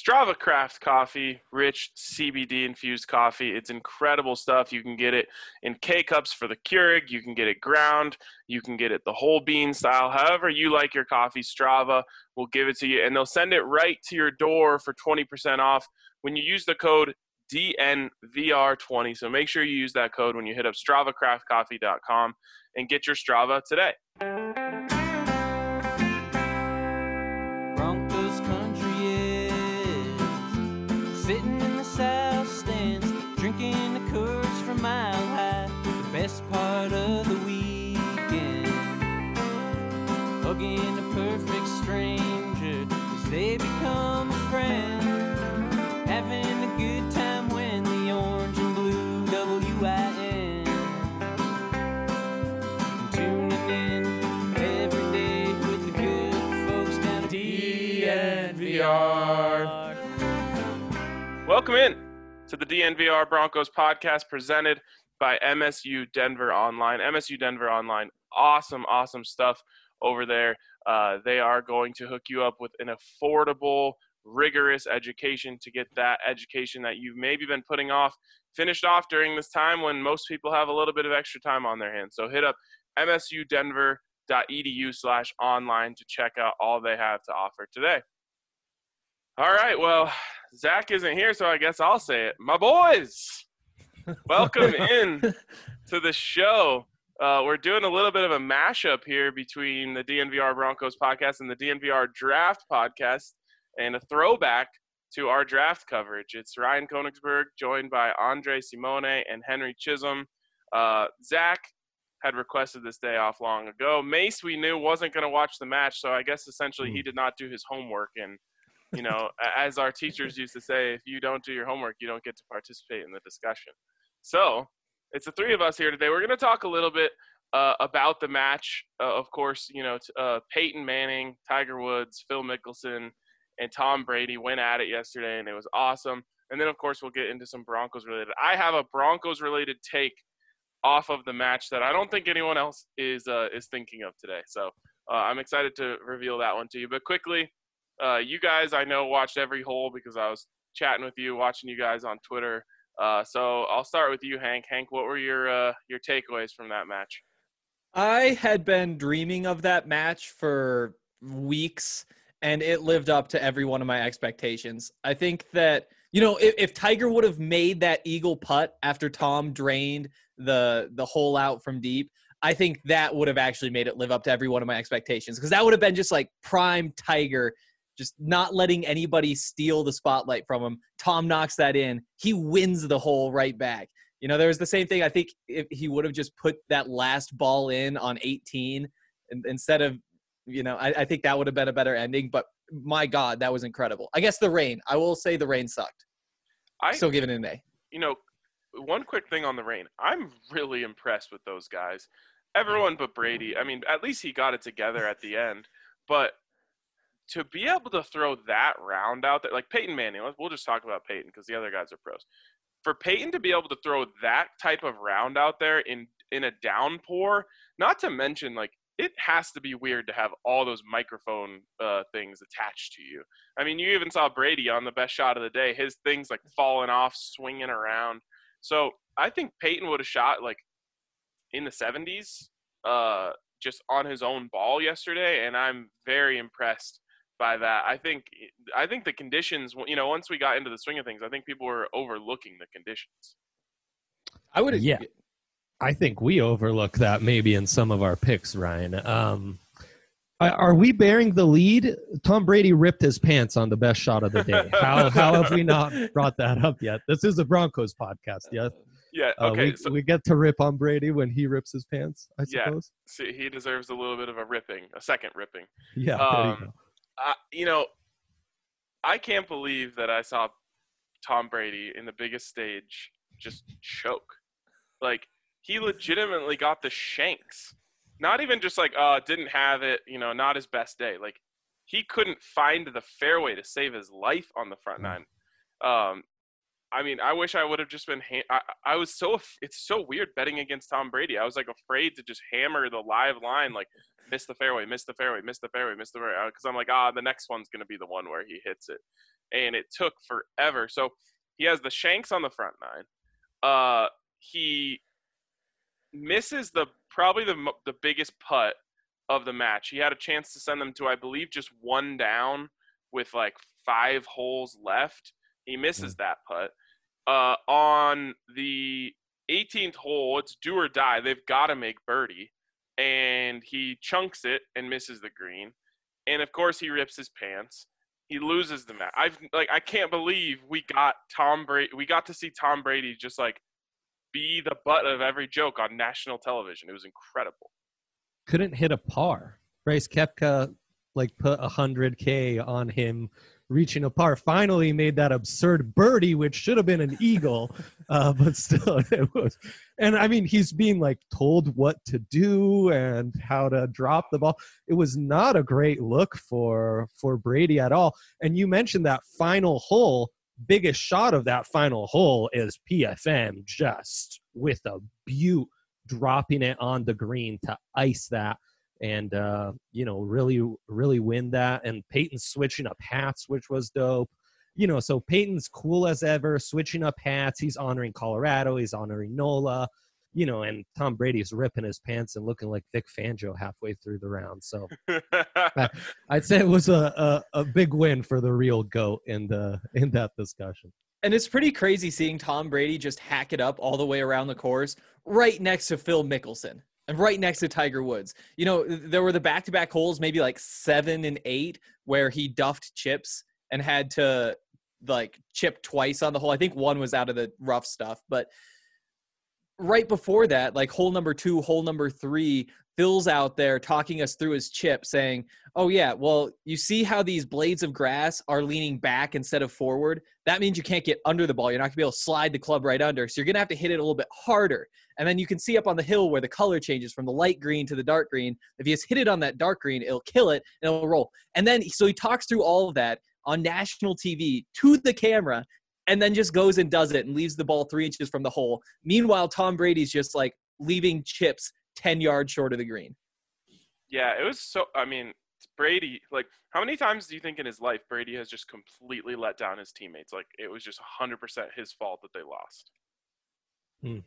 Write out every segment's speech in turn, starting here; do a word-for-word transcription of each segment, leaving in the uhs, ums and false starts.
Strava Craft Coffee, rich C B D-infused coffee. It's incredible stuff. You can get it in K-Cups for the Keurig. You can get it ground. You can get it the whole bean style. However you like your coffee, Strava will give it to you, and they'll send it right to your door for twenty percent off when you use the code D N V R twenty. So make sure you use that code when you hit up strava craft coffee dot com and get your Strava today. Broncos country is sitting in the south stands, drinking the Coors from Mile High. The best part of the weekend, hugging a perfect stranger as they become a friend, having a good time when the orange and blue W I N, tuning in every day with the good folks down at D N V R. Welcome in to the D N V R Broncos podcast presented by M S U Denver Online. M S U Denver Online, awesome, awesome stuff over there. Uh, they are going to hook you up with an affordable, rigorous education to get that education that you've maybe been putting off finished off during this time when most people have a little bit of extra time on their hands. So hit up m s u denver dot e d u slash online to check out all they have to offer today. All right, well, Zach isn't here, so I guess I'll say it. My boys, welcome in to the show. Uh, we're doing a little bit of a mashup here between the D N V R Broncos podcast and the D N V R Draft podcast, and a throwback to our draft coverage. It's Ryan Koenigsberg joined by Andre Simone and Henry Chisholm. Uh, Zach had requested this day off long ago. Mace, we knew, wasn't going to watch the match, so I guess essentially he did not do his homework. And, you know, as our teachers used to say, if you don't do your homework, you don't get to participate in the discussion. So it's the three of us here today. We're going to talk a little bit uh, about the match. Uh, of course, you know, t- uh, Peyton Manning, Tiger Woods, Phil Mickelson, and Tom Brady went at it yesterday, and it was awesome. And then, of course, we'll get into some Broncos-related. I have a Broncos-related take off of the match that I don't think anyone else is uh, is thinking of today. So uh, I'm excited to reveal that one to you. But quickly, uh, you guys, I know, watched every hole because I was chatting with you, watching you guys on Twitter. Uh, so I'll start with you, Hank. Hank, what were your uh, your takeaways from that match? I had been dreaming of that match for weeks, and it lived up to every one of my expectations. I think that, you know, if, if Tiger would have made that eagle putt after Tom drained the the hole out from deep, I think that would have actually made it live up to every one of my expectations, because that would have been just like prime Tiger, just not letting anybody steal the spotlight from him. Tom knocks that in. He wins the hole right back. You know, there was the same thing. I think if he would have just put that last ball in on eighteen instead of, you know, I, I think that would have been a better ending. But my God, that was incredible. I guess the rain. I will say the rain sucked. I still giving it an A. You know, one quick thing on the rain. I'm really impressed with those guys. Everyone but Brady. I mean, at least he got it together at the end. But to be able to throw that round out there, like Peyton Manning, we'll just talk about Peyton because the other guys are pros. For Peyton to be able to throw that type of round out there in, in a downpour, not to mention, like, it has to be weird to have all those microphone uh, things attached to you. I mean, you even saw Brady on the best shot of the day, his things like falling off, swinging around. So I think Peyton would have shot like in the seventies uh, just on his own ball yesterday, and I'm very impressed by that. I think I think the conditions, you know, once we got into the swing of things, I think people were overlooking the conditions. I would have. Yeah. I think we overlook that maybe in some of our picks, Ryan. Um, are we bearing the lead? Tom Brady ripped his pants on the best shot of the day. How how have we not brought that up yet? This is a Broncos podcast, yeah? Yeah, okay. Uh, we, so, we get to rip on Brady when he rips his pants, I suppose. Yeah, see, he deserves a little bit of a ripping, a second ripping. Yeah, um, there you go. I, you know, I can't believe that I saw Tom Brady in the biggest stage just choke. Like, he legitimately got the shanks. Not even just like, uh, didn't have it, you know, not his best day. Like, he couldn't find the fairway to save his life on the front nine. Um, I mean, I wish I would have just been ha- – I, I was so – it's so weird betting against Tom Brady. I was, like, afraid to just hammer the live line, like, miss the fairway, miss the fairway, miss the fairway, miss the fairway. Because I'm like, ah, the next one's going to be the one where he hits it. and it took forever. So he has the shanks on the front nine. Uh, he misses the probably the the biggest putt of the match. He had a chance to send them to, I believe, just one down with like five holes left. He misses mm-hmm. that putt. Uh, on the eighteenth hole, it's do or die. They've got to make birdie, and he chunks it and misses the green. And of course, he rips his pants. He loses the match. I've like I can't believe we got Tom Brady. We got to see Tom Brady just like be the butt of every joke on national television. It was incredible. Couldn't hit a par. Bryce Koepka like put a hundred K on him reaching a par. Finally made that absurd birdie, which should have been an eagle, uh, but still it was. And I mean, he's being like told what to do and how to drop the ball. It was not a great look for for Brady at all. And you mentioned that final hole. Biggest shot of that final hole is P F M just with a beaut dropping it on the green to ice that and uh you know really really win that. And Peyton switching up hats, which was dope. You know, so Peyton's cool as ever, switching up hats. He's honoring Colorado, he's honoring Nola, you know, and Tom Brady's ripping his pants and looking like Vic Fangio halfway through the round. So I, I'd say it was a, a a big win for the real GOAT in the in that discussion. And it's pretty crazy seeing Tom Brady just hack it up all the way around the course right next to Phil Mickelson and right next to Tiger Woods. You know, there were the back-to-back holes, maybe like seven and eight, where he duffed chips and had to like chip twice on the hole. I think one was out of the rough stuff, but right before that, like hole number two, hole number three, Phil's out there talking us through his chip saying, oh yeah, well, you see how these blades of grass are leaning back instead of forward? That means you can't get under the ball. You're not gonna be able to slide the club right under. So you're gonna have to hit it a little bit harder. And then you can see up on the hill where the color changes from the light green to the dark green. If you just hit it on that dark green, it'll kill it and it'll roll. And then, so he talks through all of that on national T V to the camera, and then just goes and does it and leaves the ball three inches from the hole. Meanwhile, Tom Brady's just like leaving chips ten yards short of the green. Yeah, it was so, I mean, Brady, like, how many times do you think in his life Brady has just completely let down his teammates? Like, it was just one hundred percent his fault that they lost. Hmm.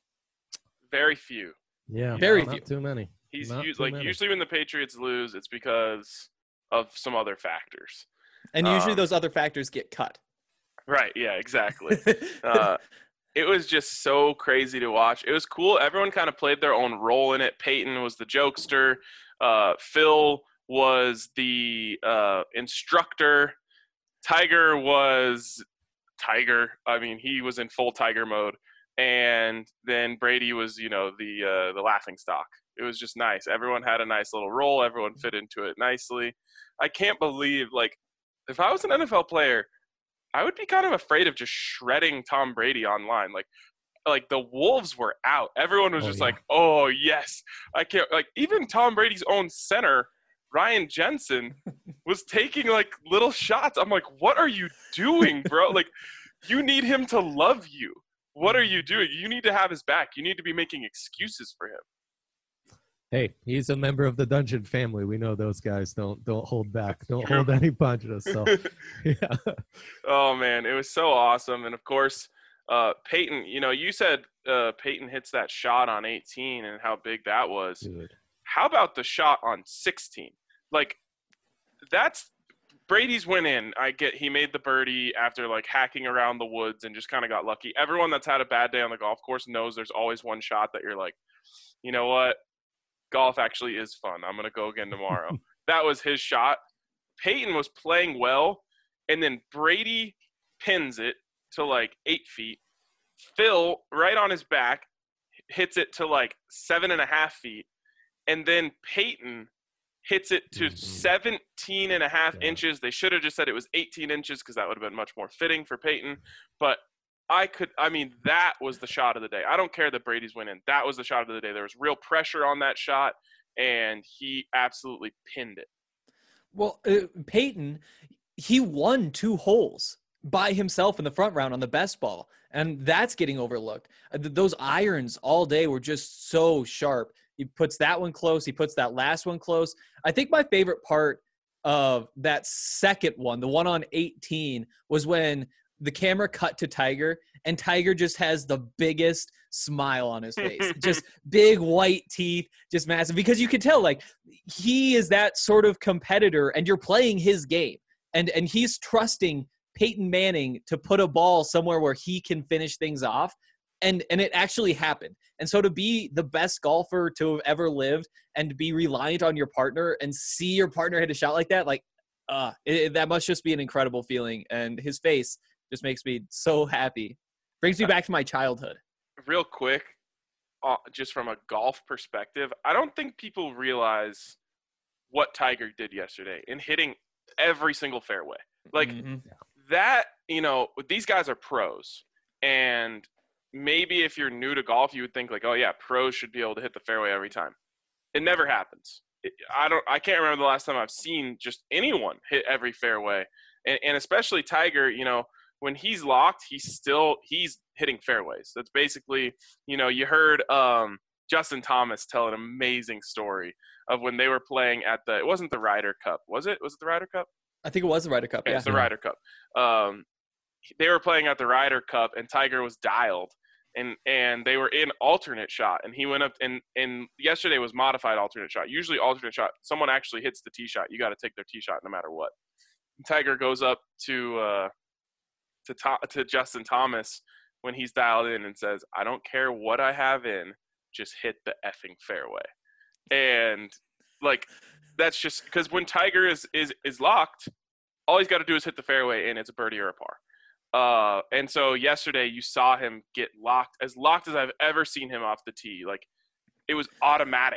Very few. Yeah, very no, few. Not too many. He's Not used, too like, many. usually when the Patriots lose, it's because of some other factors. And usually Um, those other factors get cut. Right, yeah, exactly. uh, it was just so crazy to watch. It was cool. Everyone kind of played their own role in it. Peyton was the jokester. Uh, Phil was the uh, instructor. Tiger was Tiger. I mean, he was in full Tiger mode. And then Brady was, you know, the uh, the laughing stock. It was just nice. Everyone had a nice little role. Everyone fit into it nicely. I can't believe, like, if I was an N F L player, I would be kind of afraid of just shredding Tom Brady online. Like, like the wolves were out. Everyone was Oh, just yeah. like, oh, yes. I can't. Like, even Tom Brady's own center, Ryan Jensen, was taking, like, little shots. I'm like, what are you doing, bro? Like, you need him to love you. What are you doing? You need to have his back. You need to be making excuses for him. Hey, he's a member of the Dungeon family. We know those guys don't don't hold back. Don't True. hold any punches. So, yeah. Oh, man, it was so awesome. And, of course, uh, Peyton, you know, you said uh, Peyton hits that shot on eighteen and how big that was. Dude. How about the shot on sixteen? Like, that's Brady's win in. I get he made the birdie after, like, hacking around the woods and just kind of got lucky. Everyone that's had a bad day on the golf course knows there's always one shot that you're like, you know what? Golf actually is fun. I'm going to go again tomorrow. That was his shot. Peyton was playing well, and then Brady pins it to like eight feet. Phil, right on his back, hits it to like seven and a half feet. And then Peyton hits it to Mhm. seventeen and a half Yeah. inches. They should have just said it was eighteen inches because that would have been much more fitting for Peyton. But I could, I mean, that was the shot of the day. I don't care that Brady's winning. That was the shot of the day. There was real pressure on that shot, and he absolutely pinned it. Well, uh, Peyton, he won two holes by himself in the front round on the best ball, and that's getting overlooked. Uh, th- those irons all day were just so sharp. He puts that one close. He puts that last one close. I think my favorite part of that second one, the one on eighteen, was when the camera cut to Tiger, and Tiger just has the biggest smile on his face. Just big white teeth, just massive. Because you can tell, like, he is that sort of competitor, and you're playing his game. And and he's trusting Peyton Manning to put a ball somewhere where he can finish things off. And and it actually happened. And so to be the best golfer to have ever lived and to be reliant on your partner and see your partner hit a shot like that, like, uh, it, that must just be an incredible feeling. And his face just makes me so happy. Brings me back to my childhood. Real quick, uh, just from a golf perspective, I don't think people realize what Tiger did yesterday in hitting every single fairway. Like, Mm-hmm. that, you know, these guys are pros. And maybe if you're new to golf, you would think like, oh yeah, pros should be able to hit the fairway every time. It never happens. It, I don't, I can't remember the last time I've seen just anyone hit every fairway. And, and especially Tiger, you know, when he's locked, he's still, he's hitting fairways. That's basically, you know, you heard um, Justin Thomas tell an amazing story of when they were playing at the, it wasn't the Ryder Cup, was it? Was it the Ryder Cup? I think it was the Ryder Cup. Okay, Yeah, it's the Ryder Cup. Um, they were playing at the Ryder Cup, and Tiger was dialed, and and they were in alternate shot, and he went up, and and yesterday was modified alternate shot. Usually alternate shot, someone actually hits the tee shot. You got to take their tee shot no matter what. And Tiger goes up to uh, to to to Justin Thomas when he's dialed in and says, "I don't care what I have in, just hit the effing fairway." And like, that's just because when Tiger is is is locked, all he's got to do is hit the fairway, and it's a birdie or a par. Uh, and so yesterday you saw him get locked, as locked as I've ever seen him off the tee. Like, it was automatic.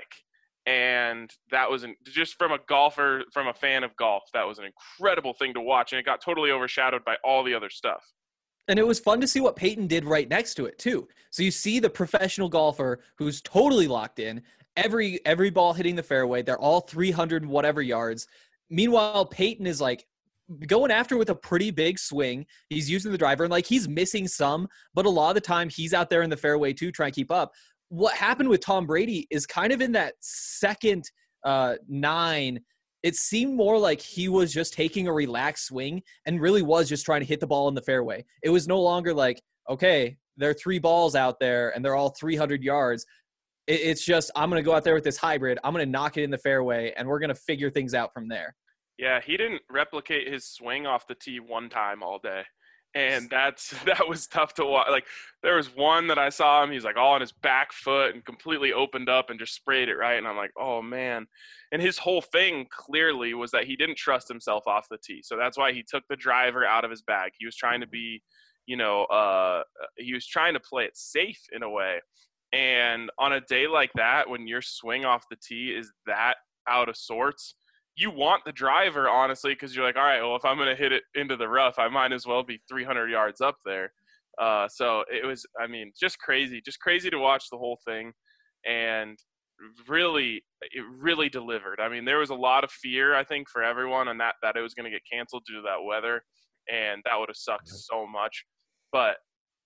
And that was an, just from a golfer, from a fan of golf, that was an incredible thing to watch. And it got totally overshadowed by all the other stuff. And it was fun to see what Peyton did right next to it too. So you see the professional golfer who's totally locked in, every every ball hitting the fairway. They're all three hundred and whatever yards. Meanwhile, Peyton is like going after with a pretty big swing. He's using the driver, and like, he's missing some, but a lot of the time he's out there in the fairway too, trying to keep up. What happened with Tom Brady is kind of in that second uh, nine, it seemed more like he was just taking a relaxed swing and really was just trying to hit the ball in the fairway. It was no longer like, okay, there are three balls out there and they're all three hundred yards. It, it's just, I'm going to go out there with this hybrid. I'm going to knock it in the fairway, and we're going to figure things out from there. Yeah, he didn't replicate his swing off the tee one time all day. And that's that was tough to watch. Like, there was one that I saw him, he's like all on his back foot and completely opened up and just sprayed it right. And I'm like, oh man. And his whole thing clearly was that he didn't trust himself off the tee. So that's why he took the driver out of his bag. He was trying to be, you know, uh, he was trying to play it safe in a way. And on a day like that, when your swing off the tee is that out of sorts, you want the driver, honestly, because you're like, all right, well, if I'm going to hit it into the rough, I might as well be three hundred yards up there. Uh, so it was, I mean, just crazy, just crazy to watch the whole thing. And really, it really delivered. I mean, there was a lot of fear, I think, for everyone on that, that it was going to get canceled due to that weather. And that would have sucked so much. But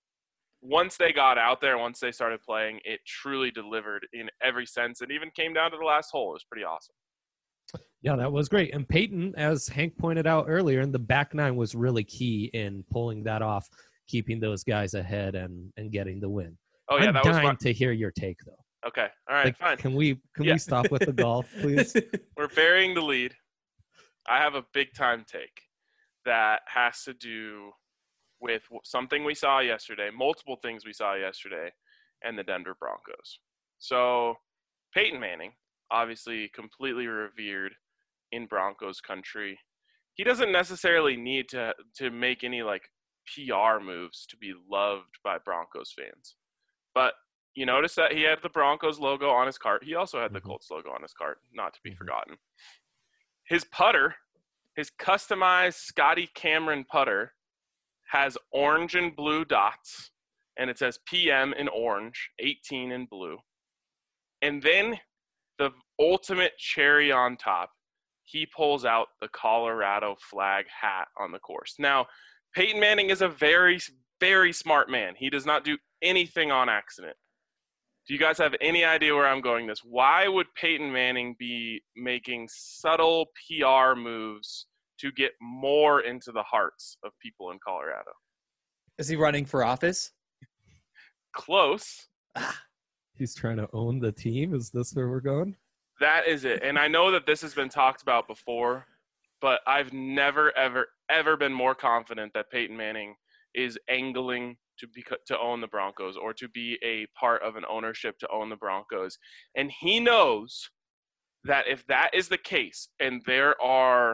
once they got out there, once they started playing, it truly delivered in every sense. It even came down to the last hole. It was pretty awesome. Yeah, that was great. And Peyton, as Hank pointed out earlier, in the back nine was really key in pulling that off, keeping those guys ahead and, and getting the win. Oh, yeah, I'm that was dying fun. to hear your take, though. Okay. All right, Like, fine. Can we can Yeah. we stop with the golf, please? We're burying the lead. I have a big time take that has to do with something we saw yesterday, multiple things we saw yesterday, and the Denver Broncos. So Peyton Manning, obviously completely revered in Broncos country. He doesn't necessarily need to to make any like P R moves to be loved by Broncos fans. But you notice that he had the Broncos logo on his cart. He also had the Colts logo on his cart, not to be forgotten. His putter, his customized Scotty Cameron putter, has orange and blue dots, and it says P M in orange, eighteen in blue. And then the ultimate cherry on top, he pulls out the Colorado flag hat on the course. Now, Peyton Manning is a very, very smart man. He does not do anything on accident. Do you guys have any idea where I'm going this? Why would Peyton Manning be making subtle P R moves to get more into the hearts of people in Colorado? Is he running for office? Close. He's trying to own the team. Is this where we're going? That is it. And I know that this has been talked about before, but I've never, ever, ever been more confident that Peyton Manning is angling to be to own the Broncos or to be a part of an ownership to own the Broncos. And he knows that if that is the case and there are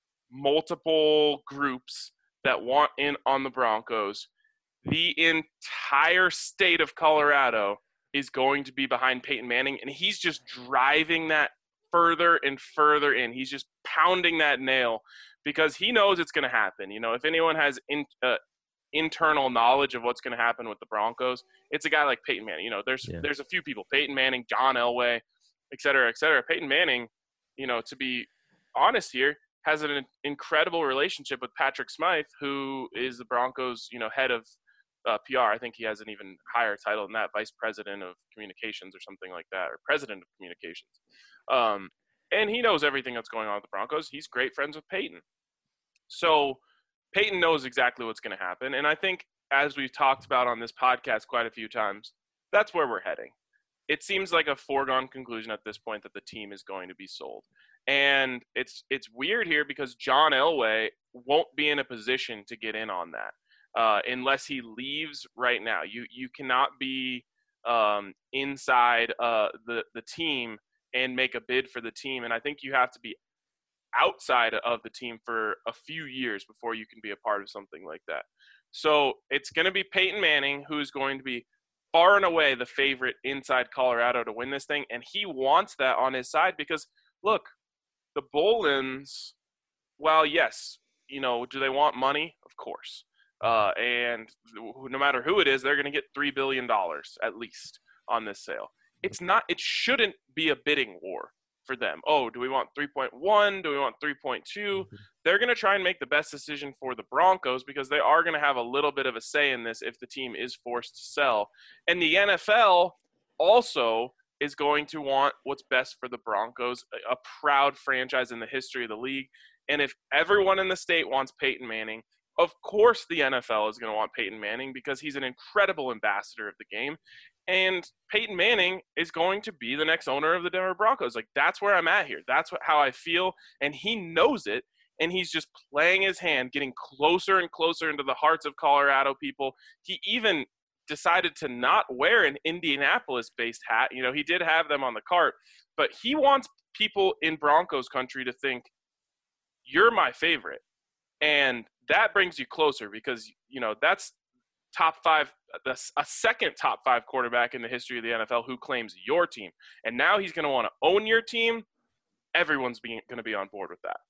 multiple groups that want in on the Broncos, the entire state of Colorado is going to be behind Peyton Manning, and he's just driving that further and further in. He's just pounding that nail because he knows it's going to happen. You know, if anyone has in, uh, internal knowledge of what's going to happen with the Broncos, it's a guy like Peyton Manning. You know, there's yeah. there's a few people, Peyton Manning, John Elway, et cetera, et cetera. Peyton Manning, you know, to be honest here, has an incredible relationship with Patrick Smythe, who is the Broncos, you know, head of uh, P R. I think he has an even higher title than that, vice president of communications or something like that, or president of communications. Um, and he knows everything that's going on with the Broncos. He's great friends with Peyton. So Peyton knows exactly what's going to happen. And I think, as we've talked about on this podcast quite a few times, that's where we're heading. It seems like a foregone conclusion at this point that the team is going to be sold. And it's it's weird here because John Elway won't be in a position to get in on that uh, unless he leaves right now. You you cannot be um, inside uh, the, the team and make a bid for the team. And I think you have to be outside of the team for a few years before you can be a part of something like that. So it's going to be Peyton Manning who's going to be far and away the favorite inside Colorado to win this thing. And he wants that on his side because, look, the Bolins, well, yes, you know, do they want money? Of course. Uh, and no matter who it is, they're going to get three billion dollars at least on this sale. It's not, it shouldn't be a bidding war for them. Oh, do we want three point one? Do we want three point two? Mm-hmm. They're going to try and make the best decision for the Broncos because they are going to have a little bit of a say in this if the team is forced to sell. And the N F L also is going to want what's best for the Broncos, a, a proud franchise in the history of the league. And if everyone in the state wants Peyton Manning, of course the N F L is going to want Peyton Manning because he's an incredible ambassador of the game. And Peyton Manning is going to be the next owner of the Denver Broncos. Like, that's where I'm at here. That's what, how I feel. And he knows it. And he's just playing his hand, getting closer and closer into the hearts of Colorado people. He even decided to not wear an Indianapolis-based hat. You know, he did have them on the cart. But he wants people in Broncos country to think, you're my favorite. And that brings you closer because, you know, that's top five, a second top five quarterback in the history of the N F L who claims your team. And now he's going to want to own your team. Everyone's being, going to be on board with that.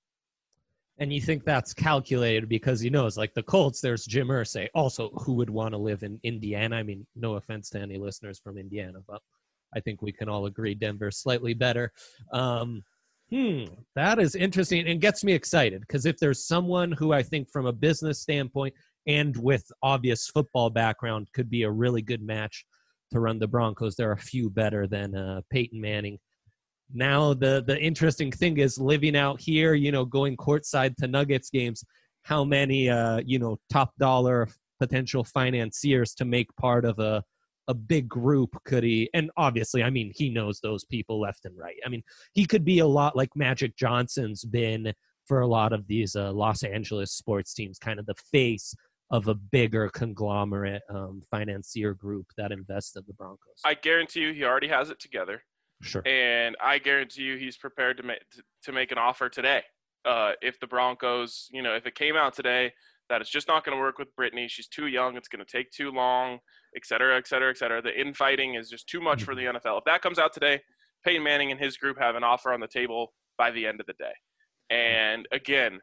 And you think that's calculated because he knows, like the Colts, there's Jim Irsay. Also, who would want to live in Indiana? I mean, no offense to any listeners from Indiana, but I think we can all agree Denver's slightly better. Um, hmm, that is interesting and gets me excited because if there's someone who I think from a business standpoint and with obvious football background could be a really good match to run the Broncos, there are a few better than uh, Peyton Manning. Now, the, the interesting thing is living out here, you know, going courtside to Nuggets games, how many, uh, you know, top dollar potential financiers to make part of a, a big group could he, and obviously, I mean, he knows those people left and right. I mean, he could be a lot like Magic Johnson's been for a lot of these uh, Los Angeles sports teams, kind of the face of a bigger conglomerate um, financier group that invests in the Broncos. I guarantee you he already has it together. Sure. And I guarantee you he's prepared to make to, to make an offer today. Uh, if the Broncos, you know, if it came out today that it's just not going to work with Brittany, she's too young, it's going to take too long, et cetera, et cetera, et cetera. The infighting is just too much mm-hmm. for the N F L. If that comes out today, Peyton Manning and his group have an offer on the table by the end of the day. And again,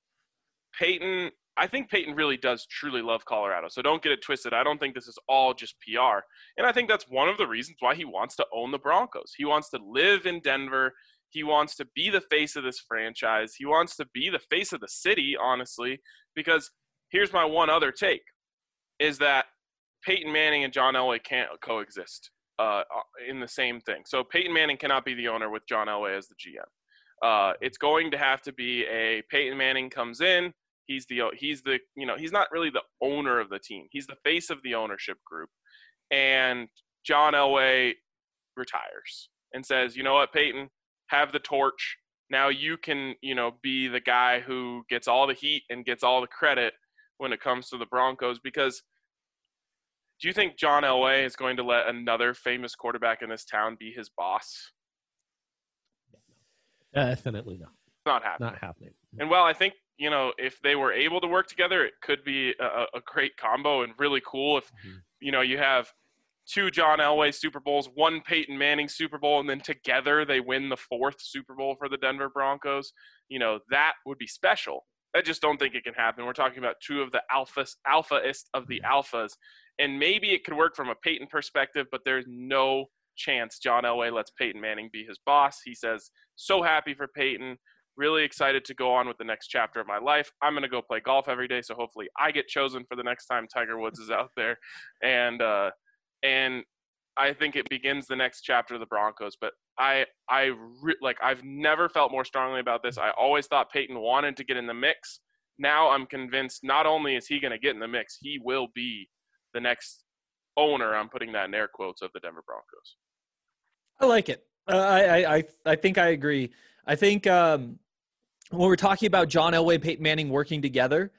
Peyton, I think Peyton really does truly love Colorado. So don't get it twisted. I don't think this is all just P R. And I think that's one of the reasons why he wants to own the Broncos. He wants to live in Denver. He wants to be the face of this franchise. He wants to be the face of the city, honestly, because here's my one other take, is that Peyton Manning and John Elway can't coexist. uh, in the same thing. So Peyton Manning cannot be the owner with John Elway as the G M. Uh, it's going to have to be a Peyton Manning comes in. He's the he's the you know he's not really the owner of the team. He's the face of the ownership group, and John Elway retires and says, you know what, Peyton, have the torch. Now you can you know be the guy who gets all the heat and gets all the credit when it comes to the Broncos. Because do you think John Elway is going to let another famous quarterback in this town be his boss? Definitely not. Not happening. Not happening. And well, I think, you know, if they were able to work together, it could be a, a great combo and really cool if, mm-hmm. you know, you have two John Elway Super Bowls, one Peyton Manning Super Bowl, and then together they win the fourth Super Bowl for the Denver Broncos. You know, that would be special. I just don't think it can happen. We're talking about two of the alphas, alphaist of the alphas. And maybe it could work from a Peyton perspective, but there's no chance John Elway lets Peyton Manning be his boss. He says, so happy for Peyton, really excited to go on with the next chapter of my life. I'm going to go play golf every day, so hopefully I get chosen for the next time Tiger Woods is out there. And uh, and I think it begins the next chapter of the Broncos. But I, I re- like I've never felt more strongly about this. I always thought Peyton wanted to get in the mix. Now I'm convinced not only is he going to get in the mix, he will be the next owner, I'm putting that in air quotes, of the Denver Broncos. I like it. Uh, I, I I think I agree. I think um, when we're talking about John Elway, Peyton Manning working together,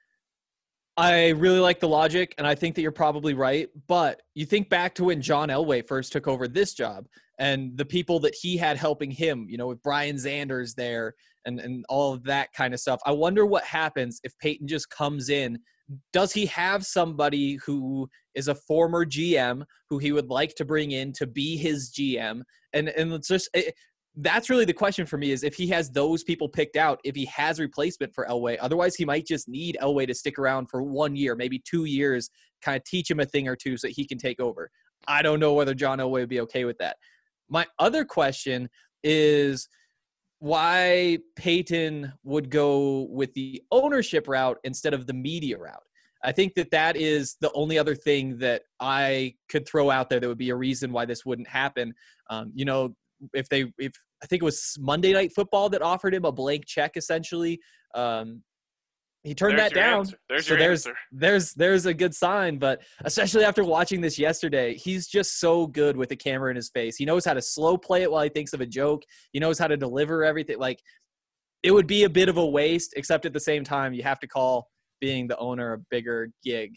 I really like the logic, and I think that you're probably right. But you think back to when John Elway first took over this job and the people that he had helping him, you know, with Brian Zanders there and, and all of that kind of stuff. I wonder what happens if Peyton just comes in. Does he have somebody who is a former G M who he would like to bring in to be his G M? And and it's just it, that's really the question for me, is if he has those people picked out, if he has replacement for Elway. Otherwise, he might just need Elway to stick around for one year, maybe two years, kind of teach him a thing or two so he can take over. I don't know whether John Elway would be okay with that. My other question is why Peyton would go with the ownership route instead of the media route. I think that that is the only other thing that I could throw out there that would be a reason why this wouldn't happen. Um, you know, if they, if I think it was Monday Night Football that offered him a blank check, essentially, um, he turned there's that down. Answer. There's so your there's, answer. there's, there's a good sign, but especially after watching this yesterday, he's just so good with the camera in his face. He knows how to slow play it while he thinks of a joke. He knows how to deliver everything. Like, it would be a bit of a waste, except at the same time, you have to call being the owner a bigger gig.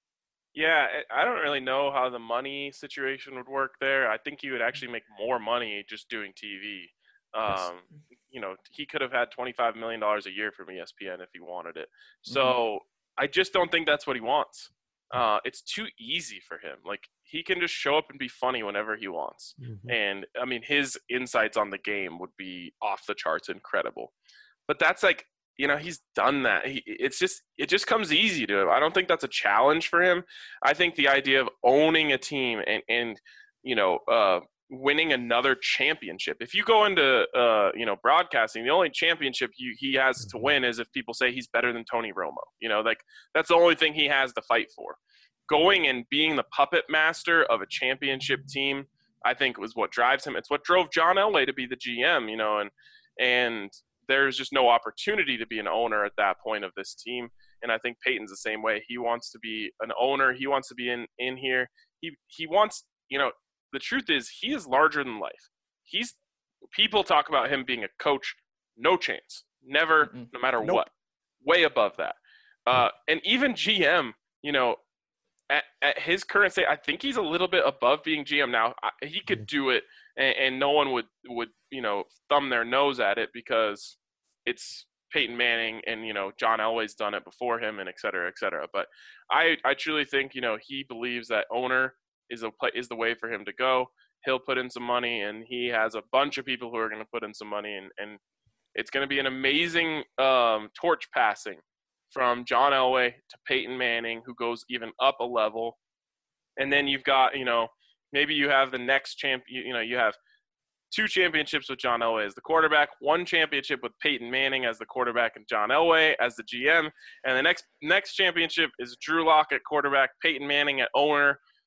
Yeah, I don't really know how the money situation would work there. I think he would actually make more money just doing T V. Um, yes. You know, he could have had twenty-five million dollars a year from E S P N if he wanted it. So mm-hmm. I just don't think that's what he wants. Uh, it's too easy for him. Like, he can just show up and be funny whenever he wants. Mm-hmm. And, I mean, his insights on the game would be off the charts incredible. But that's like, you know, he's done that. He, it's just, it just comes easy to him. I don't think that's a challenge for him. I think the idea of owning a team and, and you know, uh, winning another championship. If you go into, uh, you know, broadcasting, the only championship you, he has to win is if people say he's better than Tony Romo. You know, like, that's the only thing he has to fight for. Going and being the puppet master of a championship team, I think, was what drives him. It's what drove John Elway to be the G M, you know, and, and, there's just no opportunity to be an owner at that point of this team. And I think Peyton's the same way. He wants to be an owner. He wants to be in, in here. He he wants, you know, the truth is he is larger than life. He's people talk about him being a coach. No chance. Never, mm-hmm. no matter nope. what. Way above that. Uh, and even G M, you know, at, at his current state, I think he's a little bit above being G M now. I, he could do it, and, and no one would, would, you know, thumb their nose at it because it's Peyton Manning and, you know, John Elway's done it before him and et cetera, et cetera. But I, I truly think, you know, he believes that owner is a play, is the way for him to go. He'll put in some money, and he has a bunch of people who are going to put in some money, and, and it's going to be an amazing um, torch passing from John Elway to Peyton Manning, who goes even up a level. And then you've got, you know, maybe you have the next champ, you, you know, you have two championships with John Elway as the quarterback, one championship with Peyton Manning as the quarterback and John Elway as the G M. And the next next championship is Drew Lock at quarterback, Peyton Manning at owner.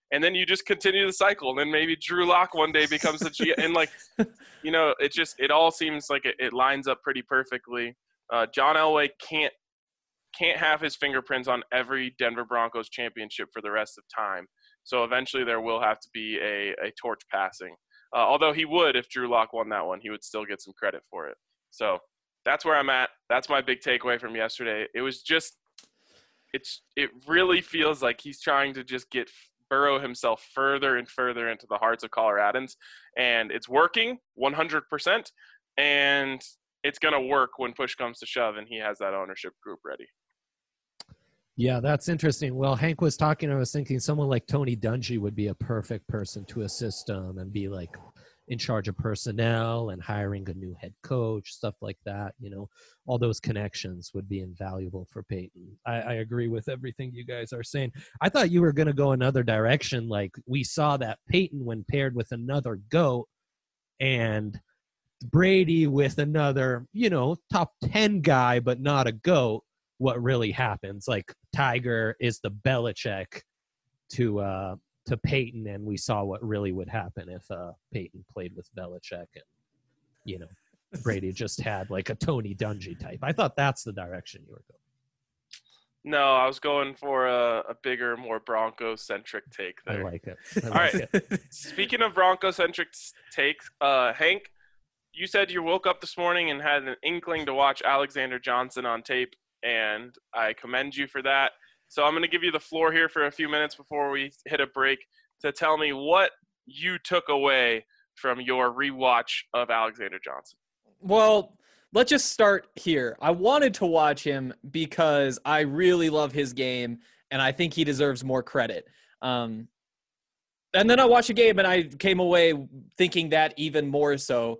and then you just continue the cycle. And then maybe Drew Lock one day becomes a G. And like, you know, it just it all seems like it, it lines up pretty perfectly. Uh, John Elway can't can't have his fingerprints on every Denver Broncos championship for the rest of time. So eventually there will have to be a, a torch passing. Uh, although he would, if Drew Lock won that one, he would still get some credit for it. So that's where I'm at. That's my big takeaway from yesterday. It was just, it's it really feels like he's trying to just get burrow himself further and further into the hearts of Coloradans. And it's working one hundred percent. And it's going to work when push comes to shove and he has that ownership group ready. Yeah, that's interesting. Well, Hank was talking, I was thinking someone like Tony Dungy would be a perfect person to assist him and be like in charge of personnel and hiring a new head coach, stuff like that. You know, all those connections would be invaluable for Peyton. I, I agree with everything you guys are saying. I thought you were going to go another direction. Like we saw that Peyton when paired with another GOAT and Brady with another, you know, top ten guy, but not a GOAT. What really happens? Like Tiger is the Belichick to uh, to Peyton, and we saw what really would happen if uh, Peyton played with Belichick, and you know Brady just had like a Tony Dungy type. I thought that's the direction you were going. No, I was going for a, a bigger, more Bronco-centric take there. I like it. I All like right. it. Speaking of Bronco-centric takes, uh, Hank, you said you woke up this morning and had an inkling to watch Alexander Johnson on tape. And I commend you for that. So I'm going to give you the floor here for a few minutes before we hit a break to tell me what you took away from your rewatch of Alexander Johnson. Well, let's just start here. I wanted to watch him because I really love his game, and I think he deserves more credit. Um, and then I watched the game, and I came away thinking that even more so.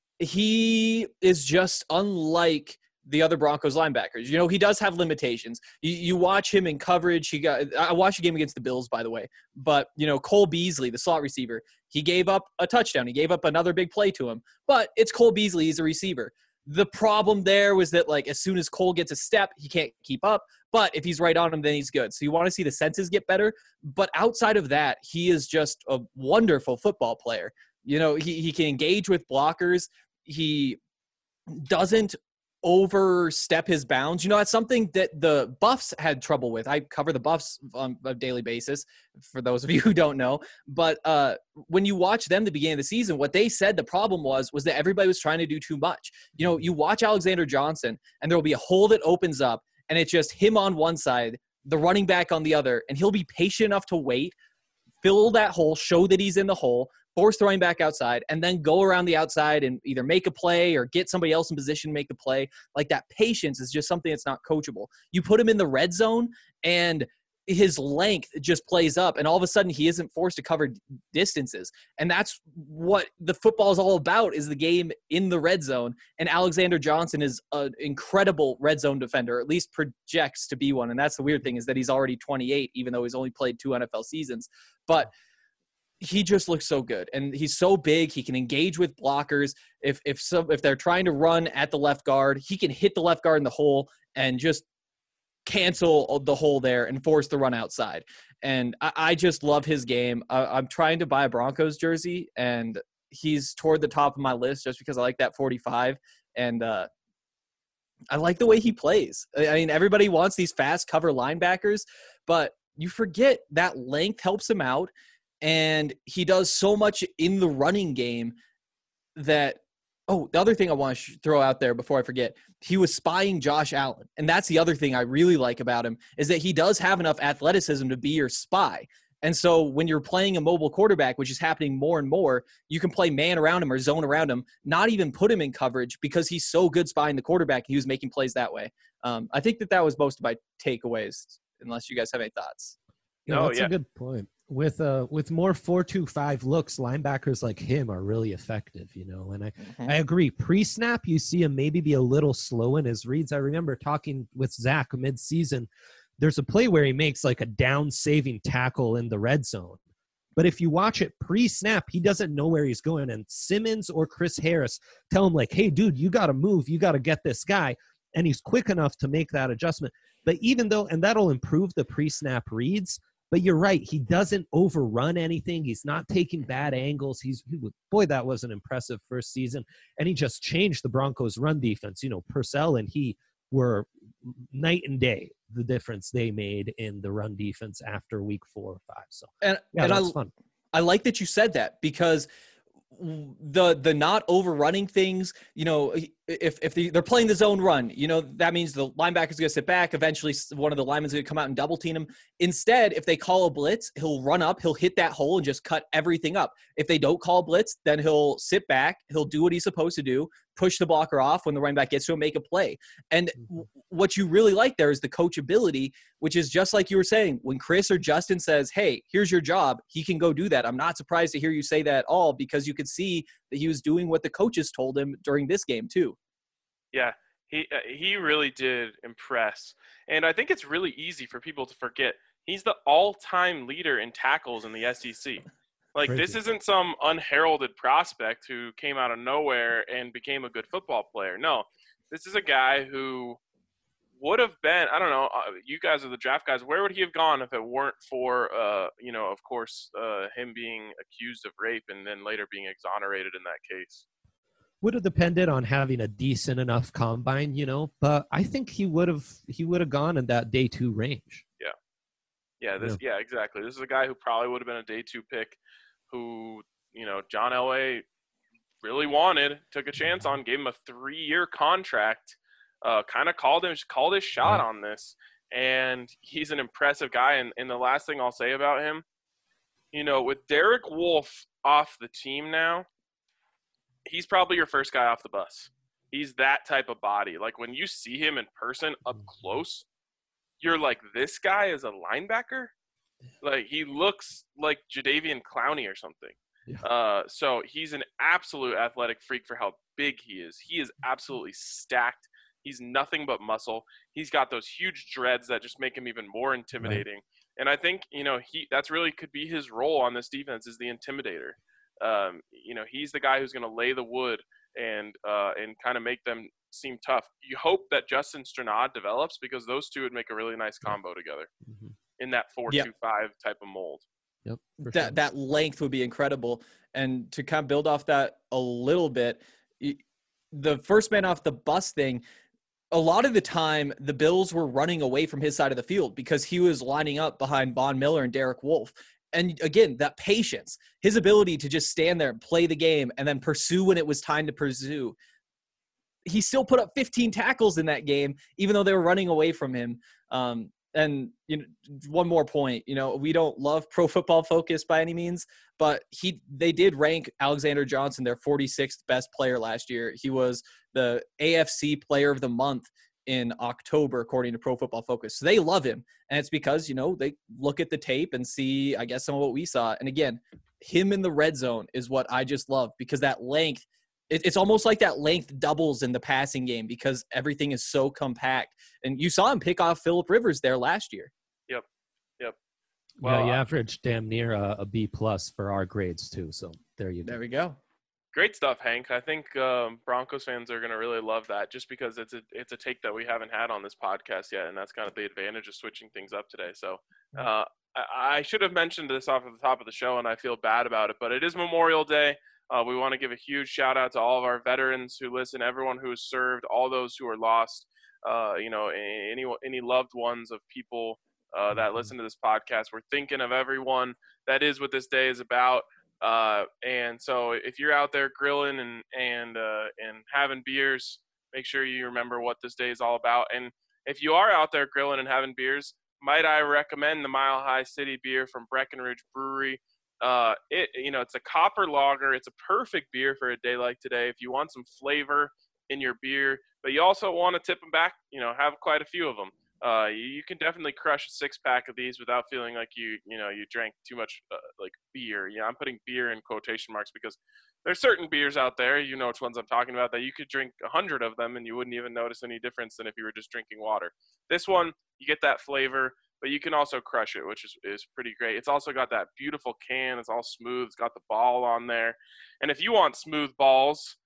He is just unlike the other Broncos linebackers. You know, he does have limitations. You, you watch him in coverage. He got, I watched the game against the Bills, by the way, but you know, Cole Beasley, the slot receiver, he gave up a touchdown. He gave up another big play to him, but it's Cole Beasley. He's a receiver. The problem there was that like, as soon as Cole gets a step, he can't keep up, but if he's right on him, then he's good. So you want to see the senses get better. But outside of that, he is just a wonderful football player. You know, he, he can engage with blockers. He doesn't overstep his bounds. You know, that's something that the Buffs had trouble with. I cover the Buffs on a daily basis, for those of you who don't know. But uh, when you watch them at the beginning of the season, what they said the problem was, was that everybody was trying to do too much. You know, you watch Alexander Johnson, and there will be a hole that opens up, and it's just him on one side, the running back on the other, and he'll be patient enough to wait, fill that hole, show that he's in the hole, force throwing back outside, and then go around the outside and either make a play or get somebody else in position to make the play. Like that patience is just something that's not coachable. You put him in the red zone and his length just plays up, and all of a sudden he isn't forced to cover distances. And that's what the football is all about, is the game in the red zone. And Alexander Johnson is an incredible red zone defender, or at least projects to be one. And that's the weird thing, is that he's already twenty-eight, even though he's only played two N F L seasons. But he just looks so good, and he's so big. He can engage with blockers. If if some if they're trying to run at the left guard, he can hit the left guard in the hole and just cancel the hole there and force the run outside. And I, I just love his game. I, I'm trying to buy a Broncos jersey, and he's toward the top of my list just because I like that forty-five, and uh, I like the way he plays. I mean, everybody wants these fast cover linebackers, but you forget that length helps him out. And he does so much in the running game that, oh, the other thing I want to throw out there before I forget, he was spying Josh Allen. And that's the other thing I really like about him, is that he does have enough athleticism to be your spy. And so when you're playing a mobile quarterback, which is happening more and more, you can play man around him or zone around him, not even put him in coverage, because he's so good spying the quarterback. He was making plays that way. Um, I think that that was most of my takeaways, unless you guys have any thoughts. Yeah, No, that's yeah. a good point. With uh with more four two five looks, linebackers like him are really effective, you know. And I, Mm-hmm. I agree. Pre-snap, you see him maybe be a little slow in his reads. I remember talking with Zach mid-season. There's a play where he makes like a down-saving tackle in the red zone. But if you watch it pre-snap, he doesn't know where he's going. And Simmons or Chris Harris tell him like, hey, dude, you got to move. You got to get this guy. And he's quick enough to make that adjustment. But even though, and that'll improve the pre-snap reads, But you're right. He doesn't overrun anything. He's not taking bad angles. He's he, boy, that was an impressive first season. And he just changed the Broncos' run defense. You know, Purcell and he were night and day, the difference they made in the run defense after week four or five. So, and, yeah, and that's I, fun. I like that you said that, because the the not overrunning things, you know, if if the, they're playing the zone run, you know, that means the linebacker's going to sit back. Eventually, one of the linemen's going to come out and double team him. Instead, if they call a blitz, he'll run up, he'll hit that hole and just cut everything up. If they don't call a blitz, then he'll sit back, he'll do what he's supposed to do, push the blocker off when the running back gets to him, make a play. And w- what you really like there is the coachability, which is just like you were saying, when Chris or Justin says, hey, here's your job, he can go do that. I'm not surprised to hear you say that at all, because you could see that he was doing what the coaches told him during this game too. Yeah, he uh, he really did impress. And I think it's really easy for people to forget. He's the all-time leader in tackles in the S E C. Like, Crazy. This isn't some unheralded prospect who came out of nowhere and became a good football player. No, this is a guy who would have been, I don't know, uh, you guys are the draft guys. Where would he have gone if it weren't for, uh, you know, of course, uh, him being accused of rape and then later being exonerated in that case? Would have depended on having a decent enough combine, you know, but I think he would have he would have gone in that day two range. Yeah. Yeah, this yeah. yeah, exactly. This is a guy who probably would have been a day two pick who, you know, John Elway really wanted, took a chance on, gave him a three-year contract, uh, kind of called him called his shot Right. on this. And he's an impressive guy. And, and the last thing I'll say about him, you know, with Derek Wolfe off the team now, he's probably your first guy off the bus. He's that type of body. Like, when you see him in person up close, you're like, this guy is a linebacker? Like, he looks like Jadeveon Clowney or something. Yeah. Uh, so he's an absolute athletic freak for how big he is. He is absolutely stacked. He's nothing but muscle. He's got those huge dreads that just make him even more intimidating. Right. And I think, you know, he that's really could be his role on this defense, is the intimidator. Um, you know, he's the guy who's going to lay the wood and uh, and kind of make them seem tough. You hope that Justin Stranad develops, because those two would make a really nice combo together Mm-hmm. in that four two five type of mold. Yep. That Sure. that length would be incredible. And to kind of build off that a little bit, the first man off the bus thing, a lot of the time the Bills were running away from his side of the field because he was lining up behind Von Miller and Derek Wolfe. And again, that patience, his ability to just stand there and play the game and then pursue when it was time to pursue. He still put up fifteen tackles in that game, even though they were running away from him. Um, and you know, one more point, you know, we don't love Pro Football Focus by any means, but he they did rank Alexander Johnson their forty-sixth best player last year. He was the A F C Player of the Month in October, according to Pro Football Focus. So they love him. And it's because, you know, they look at the tape and see, I guess, some of what we saw. And again, him in the red zone is what I just love, because that length, it, it's almost like that length doubles in the passing game because everything is so compact. And you saw him pick off Phillip Rivers there last year. Yep. Yep. Well, yeah, you uh, averaged damn near a, a B plus for our grades too. So there you go. There we go. Great stuff, Hank. I think um, Broncos fans are going to really love that, just because it's a it's a take that we haven't had on this podcast yet, and that's kind of the advantage of switching things up today. So uh, I, I should have mentioned this off at the top of the show, and I feel bad about it, but it is Memorial Day. Uh, we want to give a huge shout out to all of our veterans who listen, everyone who has served, all those who are lost, uh, you know, any any loved ones of people uh, that listen to this podcast. We're thinking of everyone. That is what this day is about. Uh, and so if you're out there grilling and, and, uh, and having beers, make sure you remember what this day is all about. And if you are out there grilling and having beers, might I recommend the Mile High City beer from Breckenridge Brewery. Uh, it, you know, it's a copper lager. It's a perfect beer for a day like today. If you want some flavor in your beer, but you also want to tip them back, you know, have quite a few of them. Uh, you, you can definitely crush a six pack of these without feeling like you, you know, you drank too much uh, like beer. Yeah, I'm putting beer in quotation marks because there's certain beers out there, you know which ones I'm talking about, that you could drink a hundred of them and you wouldn't even notice any difference than if you were just drinking water. This one, you get that flavor, but you can also crush it, which is, is pretty great. It's also got that beautiful can. It's all smooth. It's got the ball on there. And if you want smooth balls,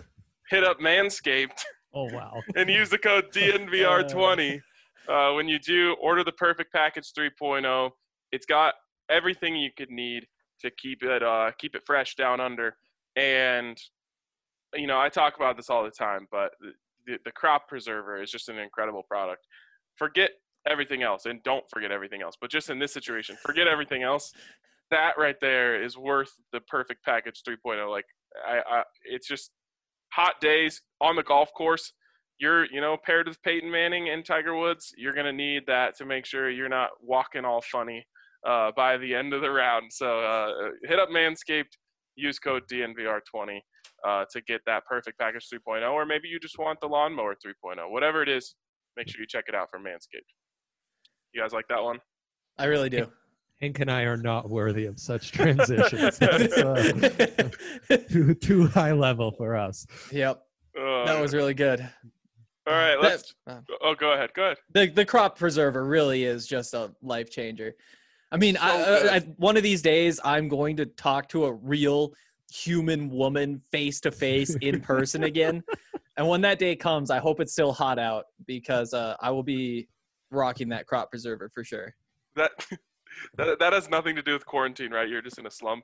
hit up Manscaped. Oh, wow. And use the code D N V R twenty. Uh, when you do, order the Perfect Package three point oh. It's got everything you could need to keep it uh, keep it fresh down under. And, you know, I talk about this all the time, but the, the crop preserver is just an incredible product. Forget everything else, and don't forget everything else. But just in this situation, forget everything else. That right there is worth the perfect package three point oh. Like, I, I, it's just hot days on the golf course. You're, you know, paired with Peyton Manning and Tiger Woods, you're going to need that to make sure you're not walking all funny uh, by the end of the round. So uh, hit up Manscaped, use code D N V R twenty uh, to get that perfect package three point oh, or maybe you just want the lawnmower three point oh. Whatever it is, make sure you check it out from Manscaped. You guys like that one? I really do. Hank and I are not worthy of such transitions. That's uh, too, too high level for us. Yep. Uh, That was really good. all right. Let's. That- Oh, go ahead. Go ahead. the the crop preserver really is just a life changer. I mean, So I, good. I, I, one of these days I'm going to talk to a real human woman face to face in person again. And when that day comes, I hope it's still hot out because uh, I will be rocking that crop preserver for sure. That, that that has nothing to do with quarantine, right? You're just in a slump.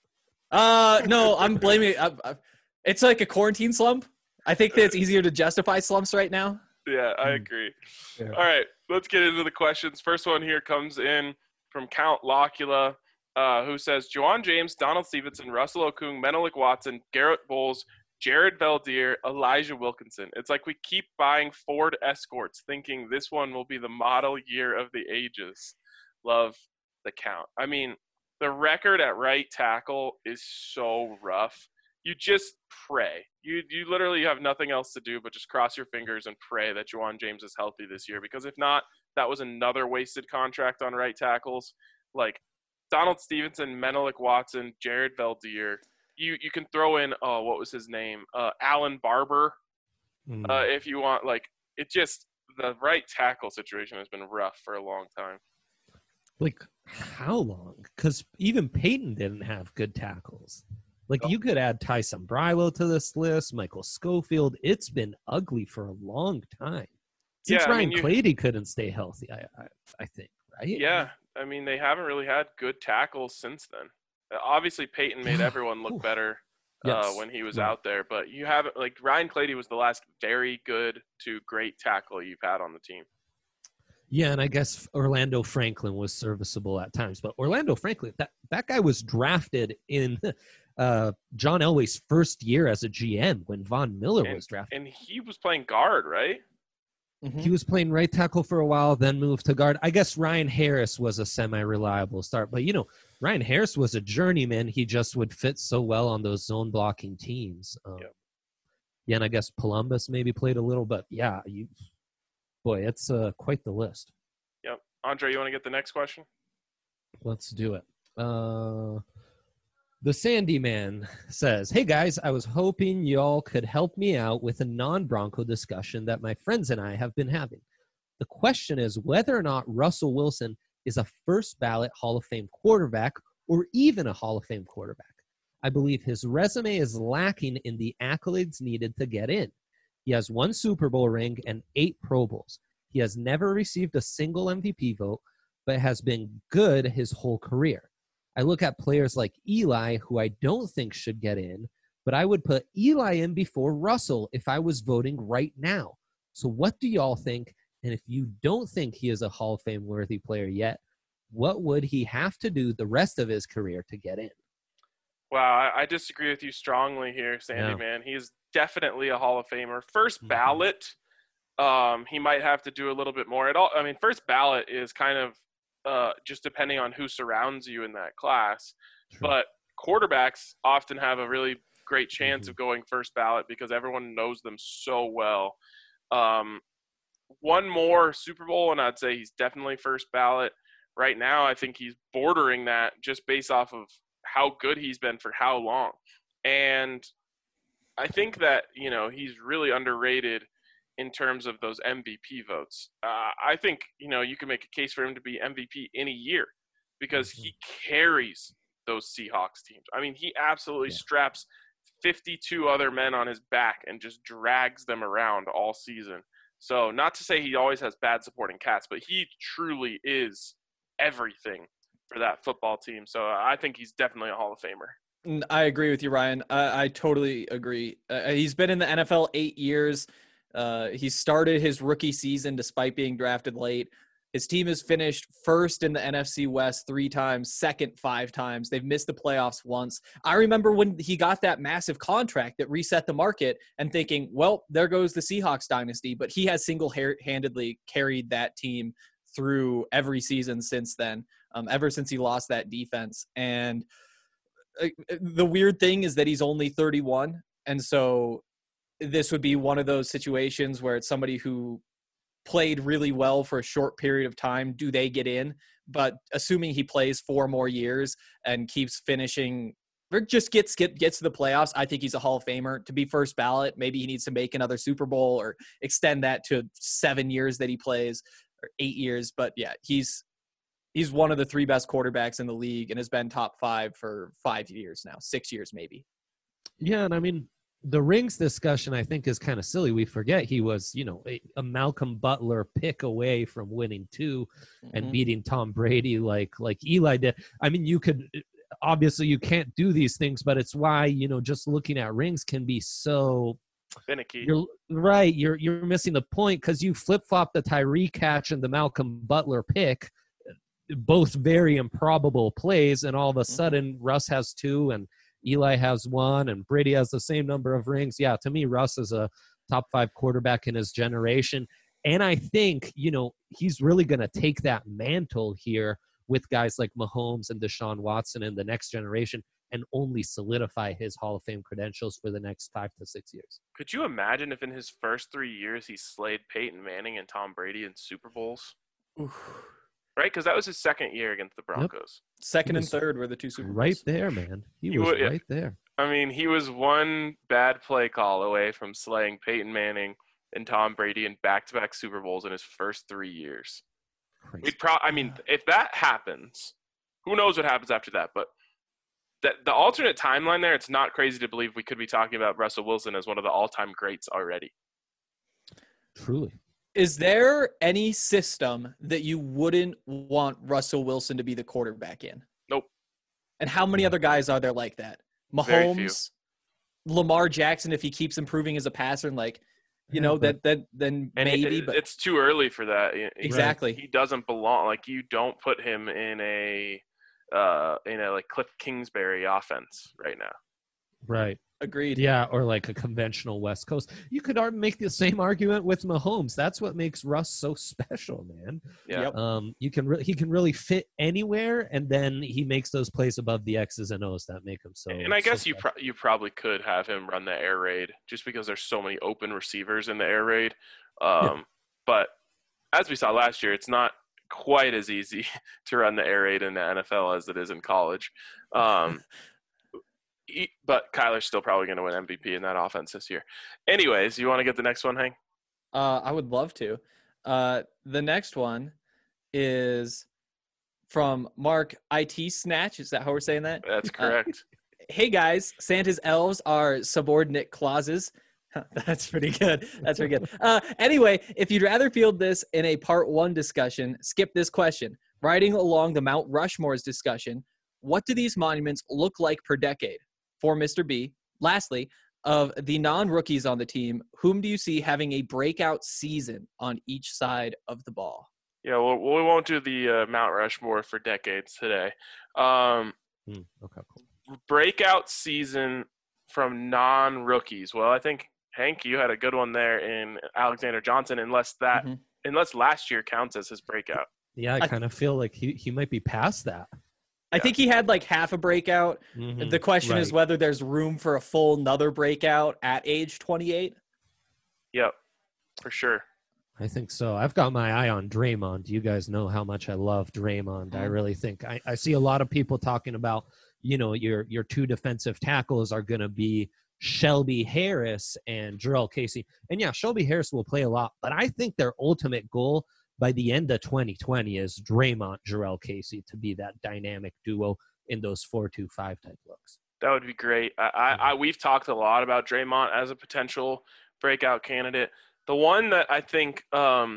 Uh, no, I'm blaming. I, I, it's like a quarantine slump. I think that it's easier to justify slumps right now. Yeah, I Mm. agree. Yeah. All right, let's get into the questions. First one here comes in from Count Locula, uh, who says, Juwan James, Donald Stevenson, Russell Okung, Menelik Watson, Garrett Bowles, Jared Valdir, Elijah Wilkinson. It's like we keep buying Ford Escorts thinking this one will be the model year of the ages. Love the count. I mean, the record at right tackle is so rough. You just pray. You you literally have nothing else to do but just cross your fingers and pray that Juwan James is healthy this year. Because if not, that was another wasted contract on right tackles. Like Donald Stevenson, Menelik Watson, Jared Valdir. You you can throw in, oh, what was his name? Uh, Alan Barber, Mm. uh, if you want. Like, it just, the right tackle situation has been rough for a long time. Like, how long? Because even Peyton didn't have good tackles. Like, No. you could add Tyson Brilo to this list, Michael Schofield. It's been ugly for a long time. Since Yeah, I Ryan mean, you- Clady couldn't stay healthy, I, I, I think, right? Yeah, I mean, they haven't really had good tackles since then. Uh, Obviously, Peyton made everyone look Oof. better uh, Yes. when he was Right. out there, but you haven't, like, Ryan Clady was the last very good to great tackle you've had on the team. Yeah, and I guess Orlando Franklin was serviceable at times. But Orlando Franklin, that, that guy was drafted in uh, John Elway's first year as a G M when Von Miller was drafted. And he was playing guard, right? Mhm. He was playing right tackle for a while, then moved to guard. I guess Ryan Harris was a semi-reliable start. But, you know, Ryan Harris was a journeyman. He just would fit so well on those zone-blocking teams. Um, Yep. Yeah, and I guess Columbus maybe played a little. But, yeah, you, boy, it's uh, quite the list. Yep. Andre, you want to get the next question? Let's do it. Uh, the Sandy Man says, hey, guys, I was hoping y'all could help me out with a non-Bronco discussion that my friends and I have been having. The question is whether or not Russell Wilson is a first ballot Hall of Fame quarterback or even a Hall of Fame quarterback. I believe his resume is lacking in the accolades needed to get in. He has one Super Bowl ring and eight Pro Bowls. He has never received a single M V P vote, but has been good his whole career. I look at players like Eli, who I don't think should get in, but I would put Eli in before Russell if I was voting right now. So what do y'all think? And if you don't think he is a Hall of Fame worthy player yet, what would he have to do the rest of his career to get in? Wow, I, I disagree with you strongly here, Sandy, Yeah. man. He is definitely a Hall of Famer. First Mhm. ballot, um, he might have to do a little bit more. At all, I mean, first ballot is kind of uh, just depending on who surrounds you in that class. True. But quarterbacks often have a really great chance Mhm. of going first ballot because everyone knows them so well. Um, one more Super Bowl, and I'd say he's definitely first ballot. Right now, I think he's bordering that just based off of how good he's been for how long. And I think that, you know, he's really underrated in terms of those M V P votes. Uh, I think, you know, you can make a case for him to be M V P in a year because he carries those Seahawks teams. I mean, he absolutely Yeah. straps fifty-two other men on his back and just drags them around all season. So not to say he always has bad supporting cast, but he truly is everything for that football team. So I think he's definitely a Hall of Famer. N- I agree with you, Ryan. I, I totally agree. Uh, he's been in the N F L eight years. Uh, he started his rookie season despite being drafted late. His team has finished first in the N F C West three times, second five times. They've missed the playoffs once. I remember when he got that massive contract that reset the market and thinking, well, there goes the Seahawks dynasty. But he has single-handedly carried that team through every season since then, um, ever since he lost that defense. And uh, the weird thing is that he's only thirty-one. And so this would be one of those situations where it's somebody who played really well for a short period of time. Do they get in? But assuming he plays four more years and keeps finishing or just gets get, gets to the playoffs, I think he's a Hall of Famer. To be first ballot, maybe he needs to make another Super Bowl or extend that to seven years that he plays or eight years. But yeah, he's he's one of the three best quarterbacks in the league and has been top five for five years now, six years maybe. Yeah, and I mean, the rings discussion, I think, is kind of silly. We forget he was, you know, a, a Malcolm Butler pick away from winning two mm-hmm. and beating Tom Brady like like Eli did. I mean, you could obviously you can't do these things, but it's why, you know, just looking at rings can be so finicky. You're right. You're you're missing the point because you flip flop the Tyree catch and the Malcolm Butler pick, both very improbable plays, and all of a sudden mm-hmm. Russ has two and Eli has one and Brady has the same number of rings. Yeah, to me, Russ is a top five quarterback in his generation. And I think, you know, he's really going to take that mantle here with guys like Mahomes and Deshaun Watson in the next generation and only solidify his Hall of Fame credentials for the next five to six years. Could you imagine if in his first three years he slayed Peyton Manning and Tom Brady in Super Bowls? Oof. Right? Because that was his second year against the Broncos. Yep. Second and third were the two Super Bowls. Right there, man. He, he was would, right there. I mean, he was one bad play call away from slaying Peyton Manning and Tom Brady in back-to-back Super Bowls in his first three years. We'd pro- I mean, if that happens, who knows what happens after that? But that the alternate timeline there, it's not crazy to believe we could be talking about Russell Wilson as one of the all-time greats already. Truly. Is there any system that you wouldn't want Russell Wilson to be the quarterback in? Nope. And how many other guys are there like that? Mahomes, Lamar Jackson, if he keeps improving as a passer, and like, you know, that that then and maybe. It, but it's too early for that. Exactly. He doesn't belong. Like, you don't put him in a uh, in a like Cliff Kingsbury offense right now. Right. Agreed. Yeah, or like a conventional West Coast. You could make the same argument with Mahomes. That's what makes Russ so special, man. Yeah. Um, you can re- he can really fit anywhere, and then he makes those plays above the X's and O's that make him so. And I guess so you pro- you probably could have him run the air raid just because there's so many open receivers in the air raid. Um, yeah. But as we saw last year, it's not quite as easy to run the air raid in the N F L as it is in college. Um, But Kyler's still probably going to win M V P in that offense this year. Anyways, you want to get the next one, Hank? Uh, I would love to. Uh, the next one is from Mark I T Snatch. Is that how we're saying that? That's correct. Uh, hey, guys. Santa's elves are subordinate clauses. That's pretty good. That's pretty good. Uh, anyway, if you'd rather field this in a part one discussion, skip this question. Riding along the Mount Rushmore's discussion, what do these monuments look like per decade? For Mister B. Lastly, of the non-rookies on the team, whom do you see having a breakout season on each side of the ball? Yeah, well, we won't do the uh, Mount Rushmore for decades today. Um, mm, okay, cool. Breakout season from non-rookies. Well, I think, Hank, you had a good one there in Alexander Johnson, unless that, mm-hmm. unless last year counts as his breakout. Yeah, I, I kind of feel like he, he might be past that. I think he had like half a breakout. Mm-hmm, the question right. is whether there's room for a full another breakout at age twenty-eight. Yep, for sure. I think so. I've got my eye on Draymond. You guys know how much I love Draymond. Mm-hmm. I really think I, I see a lot of people talking about, you know, your your two defensive tackles are going to be Shelby Harris and Jurrell Casey. And yeah, Shelby Harris will play a lot, but I think their ultimate goal by the end of twenty twenty is Draymond, Jurrell Casey to be that dynamic duo in those four two five type looks. That would be great. I, I, I we've talked a lot about Draymond as a potential breakout candidate. The one that I think um,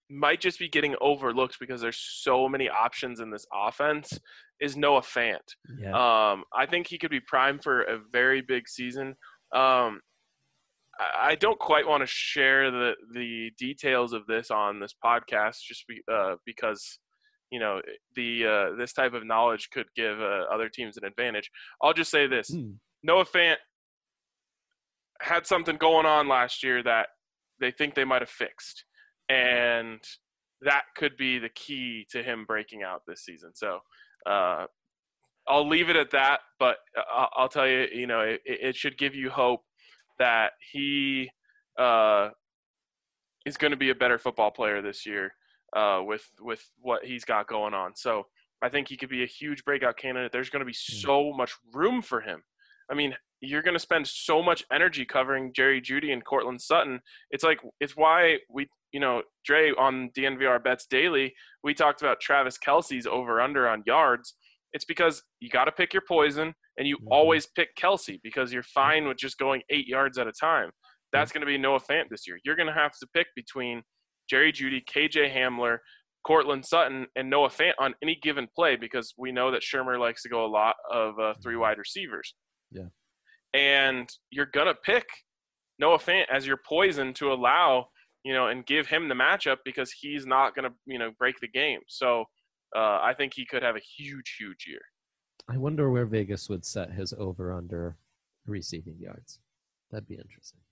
might just be getting overlooked because there's so many options in this offense is Noah Fant. Yeah. Um, I think he could be primed for a very big season. Um, I, I don't quite want to share the, the details of this on this podcast just be, uh, because, you know, the uh, this type of knowledge could give uh, other teams an advantage. I'll just say this. Hmm. Noah Fant had something going on last year that they think they might have fixed. And that could be the key to him breaking out this season. So uh, I'll leave it at that, but I'll, I'll tell you, you know, it, it should give you hope that he uh, is going to be a better football player this year uh, with with what he's got going on. So I think he could be a huge breakout candidate. There's going to be so much room for him. I mean, you're going to spend so much energy covering Jerry Jeudy and Cortland Sutton. It's like it's why we – you know, Dre, on D N V R Bets Daily, we talked about Travis Kelce's over-under on yards. It's because you got to pick your poison, and you mm-hmm. always pick Kelce because you're fine with just going eight yards at a time. That's mm-hmm. going to be Noah Fant this year. You're going to have to pick between Jerry Jeudy, K J Hamler, Cortland Sutton, and Noah Fant on any given play because we know that Shermer likes to go a lot of uh, three wide receivers. Yeah. And you're going to pick Noah Fant as your poison to allow – you know, and give him the matchup because he's not going to, you know, break the game. So uh, I think he could have a huge, huge year. I wonder where Vegas would set his over-under receiving yards. That'd be interesting.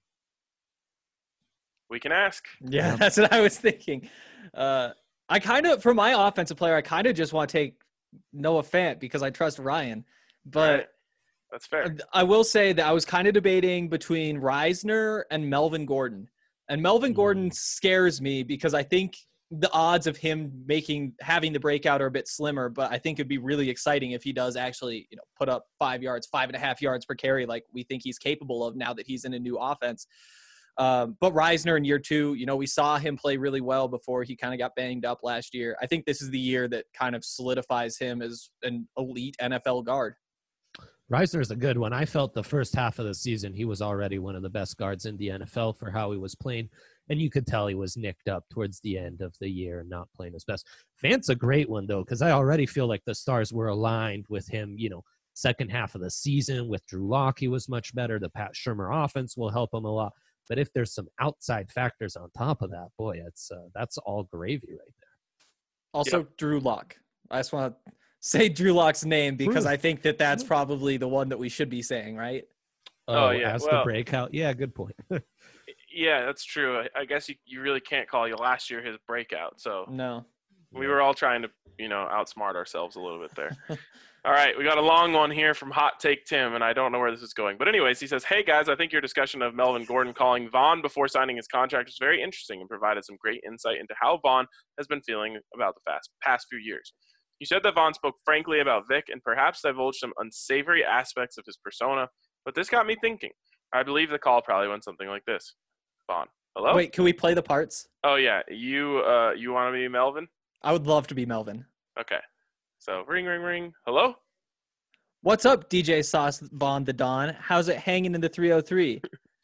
We can ask. Yeah, that's what I was thinking. Uh, I kind of, for my offensive player, I kind of just want to take Noah Fant because I trust Ryan. But right. That's fair. I will say that I was kind of debating between Reisner and Melvin Gordon. And Melvin Gordon scares me because I think the odds of him making having the breakout are a bit slimmer, but I think it'd be really exciting if he does actually, you know, put up five yards, five and a half yards per carry like we think he's capable of now that he's in a new offense. Um, but Reisner in year two, you know, we saw him play really well before he kind of got banged up last year. I think this is the year that kind of solidifies him as an elite N F L guard. Reisner's a good one. I felt the first half of the season he was already one of the best guards in the N F L for how he was playing, and you could tell he was nicked up towards the end of the year and not playing his best. Fant's a great one, though, because I already feel like the stars were aligned with him, you know, second half of the season. With Drew Lock, he was much better. The Pat Shurmur offense will help him a lot. But if there's some outside factors on top of that, boy, it's uh, that's all gravy right there. Also, yep. Drew Lock. I just want to say Drew Lock's name because Drew. I think that that's probably the one that we should be saying, right? Oh, oh yeah. As well, the breakout. Yeah, good point. Yeah, that's true. I, I guess you, you really can't call you last year his breakout. So no, we were all trying to, you know, outsmart ourselves a little bit there. All right, we got a long one here from Hot Take Tim, and I don't know where this is going. But anyways, he says, hey, guys, I think your discussion of Melvin Gordon calling Vaughn before signing his contract was very interesting and provided some great insight into how Vaughn has been feeling about the fast, past few years. You said that Vaughn spoke frankly about Vic and perhaps divulged some unsavory aspects of his persona, but this got me thinking. I believe the call probably went something like this. Vaughn, hello? Wait, can we play the parts? Oh, yeah. You uh, you want to be Melvin? I would love to be Melvin. Okay. So, ring, ring, ring. Hello? What's up, D J Sauce Bond the Don? How's it hanging in the three oh three?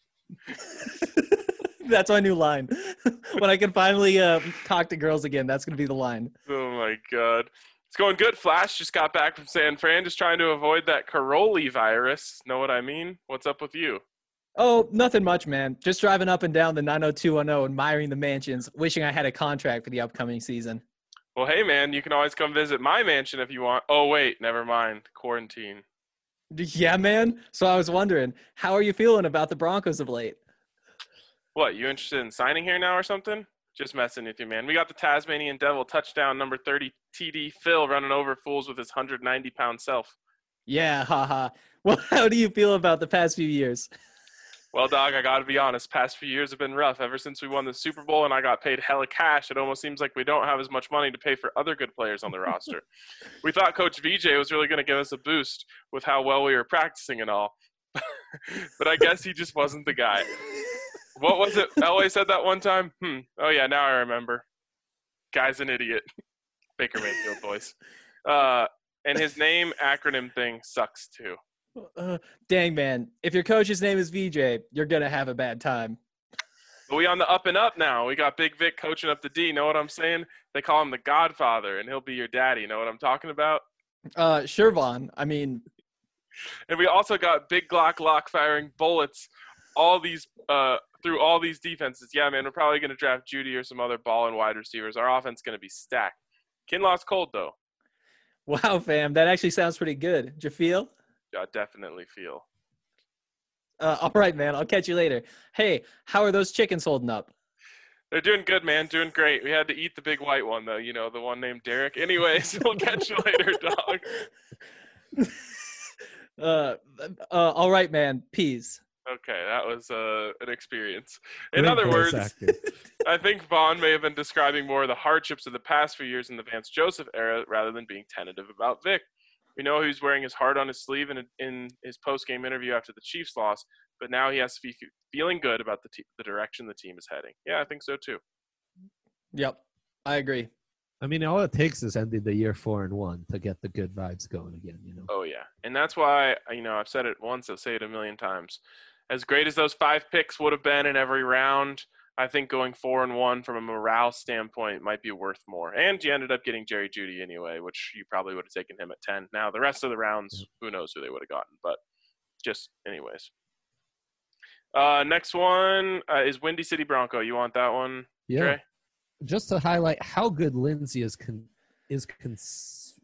That's my new line. When I can finally uh, talk to girls again, that's going to be the line. Oh, my God. It's going good. Flash just got back from San Fran, just trying to avoid that Caroli virus. Know what I mean? What's up with you? Oh, nothing much, man. Just driving up and down the nine oh two one oh, admiring the mansions, wishing I had a contract for the upcoming season. Well, hey, man, you can always come visit my mansion if you want. Oh, wait, never mind. Quarantine. Yeah, man. So I was wondering, how are you feeling about the Broncos of late? What, you interested in signing here now or something? Just messing with you, man. We got the Tasmanian Devil touchdown number thirty T D Phil running over fools with his one hundred ninety pound self. Yeah, haha. Well, how do you feel about the past few years? Well, dog, I got to be honest. Past few years have been rough. Ever since we won the Super Bowl and I got paid hella cash, it almost seems like we don't have as much money to pay for other good players on the roster. We thought Coach V J was really going to give us a boost with how well we were practicing and all. But I guess he just wasn't the guy. What was it? Elway said that one time? Hmm. Oh, yeah, now I remember. Guy's an idiot. Baker Mayfield voice. Uh, and his name acronym thing sucks, too. Uh, dang, man. If your coach's name is V J, you're going to have a bad time. But we on the up and up now. We got Big Vic coaching up the D. Know what I'm saying? They call him the Godfather, and he'll be your daddy. Know what I'm talking about? Uh, sure, Vaughn. I mean, and we also got Big Glock Lock firing bullets all these uh, through all these defenses. Yeah, man, we're probably going to draft Judy or some other ball and wide receivers. Our offense is going to be stacked. Kinlaw's cold, though. wow, fam. That actually sounds pretty good. Did you feel? I definitely feel. Uh, all right, man. I'll catch you later. Hey, how are those chickens holding up? They're doing good, man. Doing great. We had to eat the big white one, though. You know, the one named Derek. Anyways, we'll catch you later, dog. Uh, uh, all right, man. Peace. Okay, that was uh, an experience. In Great other voice words, acting. I think Vaughn may have been describing more of the hardships of the past few years in the Vance Joseph era rather than being tentative about Vic. We know he's wearing his heart on his sleeve in, in his post-game interview after the Chiefs loss, but now he has to be feeling good about the, te- the direction the team is heading. Yeah, I think so too. Yep, I agree. I mean, all it takes is ending the year four and one to get the good vibes going again. You know. Oh yeah, and that's why you know I've said it once, I'll say it a million times. As great as those five picks would have been in every round, I think going four and one from a morale standpoint might be worth more. And you ended up getting Jerry Jeudy anyway, which you probably would have taken him at ten. Now the rest of the rounds, who knows who they would have gotten, but just anyways. Uh, next one uh, is Windy City Bronco. You want that one, Yeah. Trey? Just to highlight how good Lindsey is con- is cons-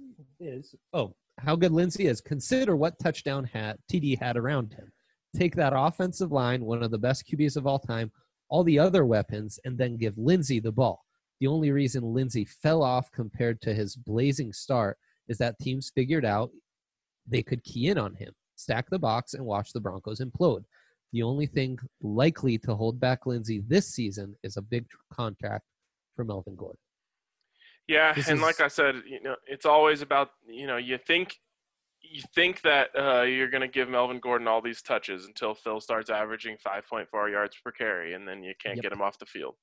is oh how good Lindsey is. Consider what touchdown hat T D had around him. Take that offensive line, one of the best Q Bs of all time, all the other weapons, and then give Lindsey the ball. The only reason Lindsey fell off compared to his blazing start is that teams figured out they could key in on him, stack the box, and watch the Broncos implode. The only thing likely to hold back Lindsey this season is a big contract for Melvin Gordon. Yeah, This and is- like I said, you know, it's always about, you know, you think you think that uh, you're going to give Melvin Gordon all these touches until Phil starts averaging five point four yards per carry, and then you can't Yep. get him off the field.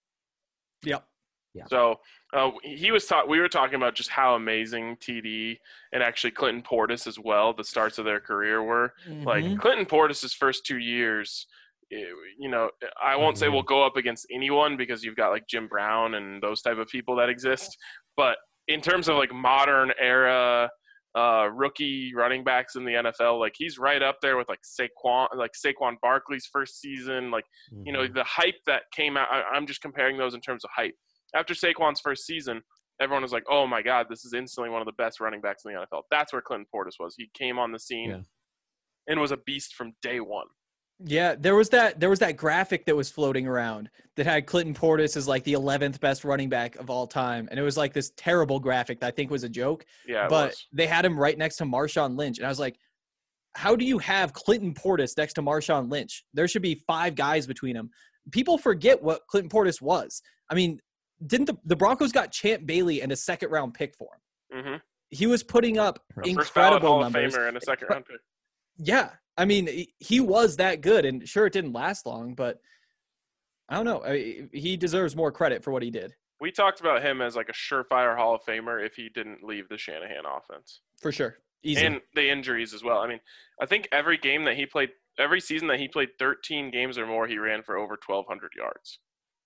Yep. Yeah. So uh, he was ta- we were talking about just how amazing T D and actually Clinton Portis as well, the starts of their career were. Like Mhm. Clinton Portis' first two years, eh, you know, I won't say Unreal. we'll go up against anyone because you've got like Jim Brown and those type of people that exist. But in terms of like modern era uh, rookie running backs in the N F L, like he's right up there with like Saquon, like Saquon Barkley's first season. Like, you know, Mhm. the hype that came out, I, I'm just comparing those in terms of hype. After Saquon's first season, everyone was like, oh my God, this is instantly one of the best running backs in the N F L. That's where Clinton Portis was. He came on the scene Yeah. and was a beast from day one. Yeah, there was that there was that graphic that was floating around that had Clinton Portis as like the eleventh best running back of all time. And it was like this terrible graphic that I think was a joke. Yeah, it but was. they had him right next to Marshawn Lynch. And I was like, how do you have Clinton Portis next to Marshawn Lynch? There should be five guys between them. People forget what Clinton Portis was. I mean, didn't the, the Broncos got Champ Bailey and a second round pick for him? Mm-hmm. He was putting up First ballot incredible Hall numbers. of Famer and a second round pick. Yeah, I mean, he- he was that good, and sure, it didn't last long, but I don't know. I, he deserves more credit for what he did, We talked about him as like a surefire Hall of Famer if he didn't leave the Shanahan offense. for sure. Easy. And the injuries as well. I mean, I think every game that he played, every season that he played thirteen games or more, he ran for over twelve hundred yards.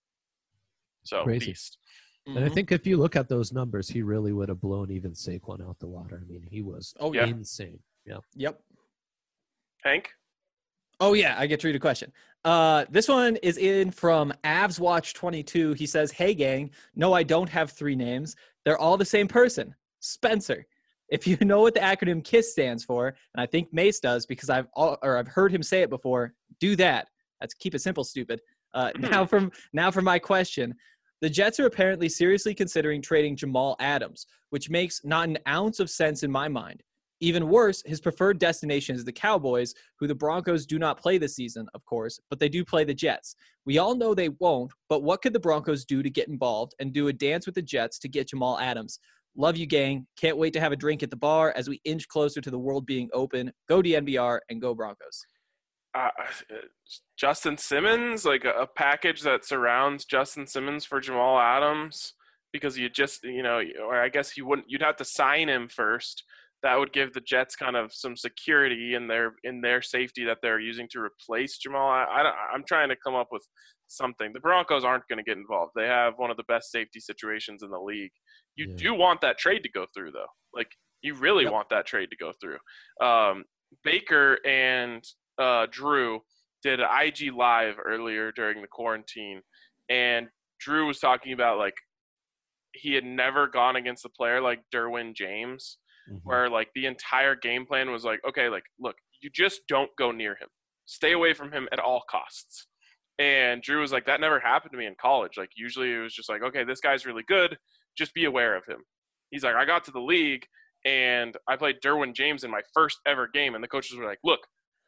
So, Crazy. beast. And I Mhm. think if you look at those numbers, he really would have blown even Saquon out the water. I mean, he was Oh, yeah. insane. Yeah. Yep. Hank? Oh, yeah, I get to read a question. Uh, this one is in from Avs Watch twenty-two. He says, hey, gang, no, I don't have three names. They're all the same person, Spencer. If you know what the acronym KISS stands for, and I think Mace does because I've all, or I've heard him say it before, do that. That's keep it simple, stupid. Uh, now from now for my question. The Jets are apparently seriously considering trading Jamal Adams, which makes not an ounce of sense in my mind. Even worse, his preferred destination is the Cowboys, who the Broncos do not play this season, of course, but they do play the Jets. We all know they won't, but what could the Broncos do to get involved and do a dance with the Jets to get Jamal Adams? Love you, gang. Can't wait to have a drink at the bar as we inch closer to the world being open. Go D N V R and go Broncos. Uh, Justin Simmons, like a, a package that surrounds Justin Simmons for Jamal Adams, because you just, you know, or I guess you wouldn't, you'd have to sign him first. That would give the Jets kind of some security in their in their safety that they're using to replace Jamal. I, I I'm trying to come up with something. The Broncos aren't going to get involved. They have one of the best safety situations in the league. You Yeah. do want that trade to go through, though. Like, you really Yep. want that trade to go through. Um, Baker and uh, Drew did an I G Live earlier during the quarantine, and Drew was talking about, like, he had never gone against a player like Derwin James, Mhm. where, like, the entire game plan was like, okay, like, look, you just don't go near him. Stay away from him at all costs. And Drew was like, that never happened to me in college. Like, usually it was just like, okay, this guy's really good. Just be aware of him. He's like, I got to the league, and I played Derwin James in my first ever game, and the coaches were like, look,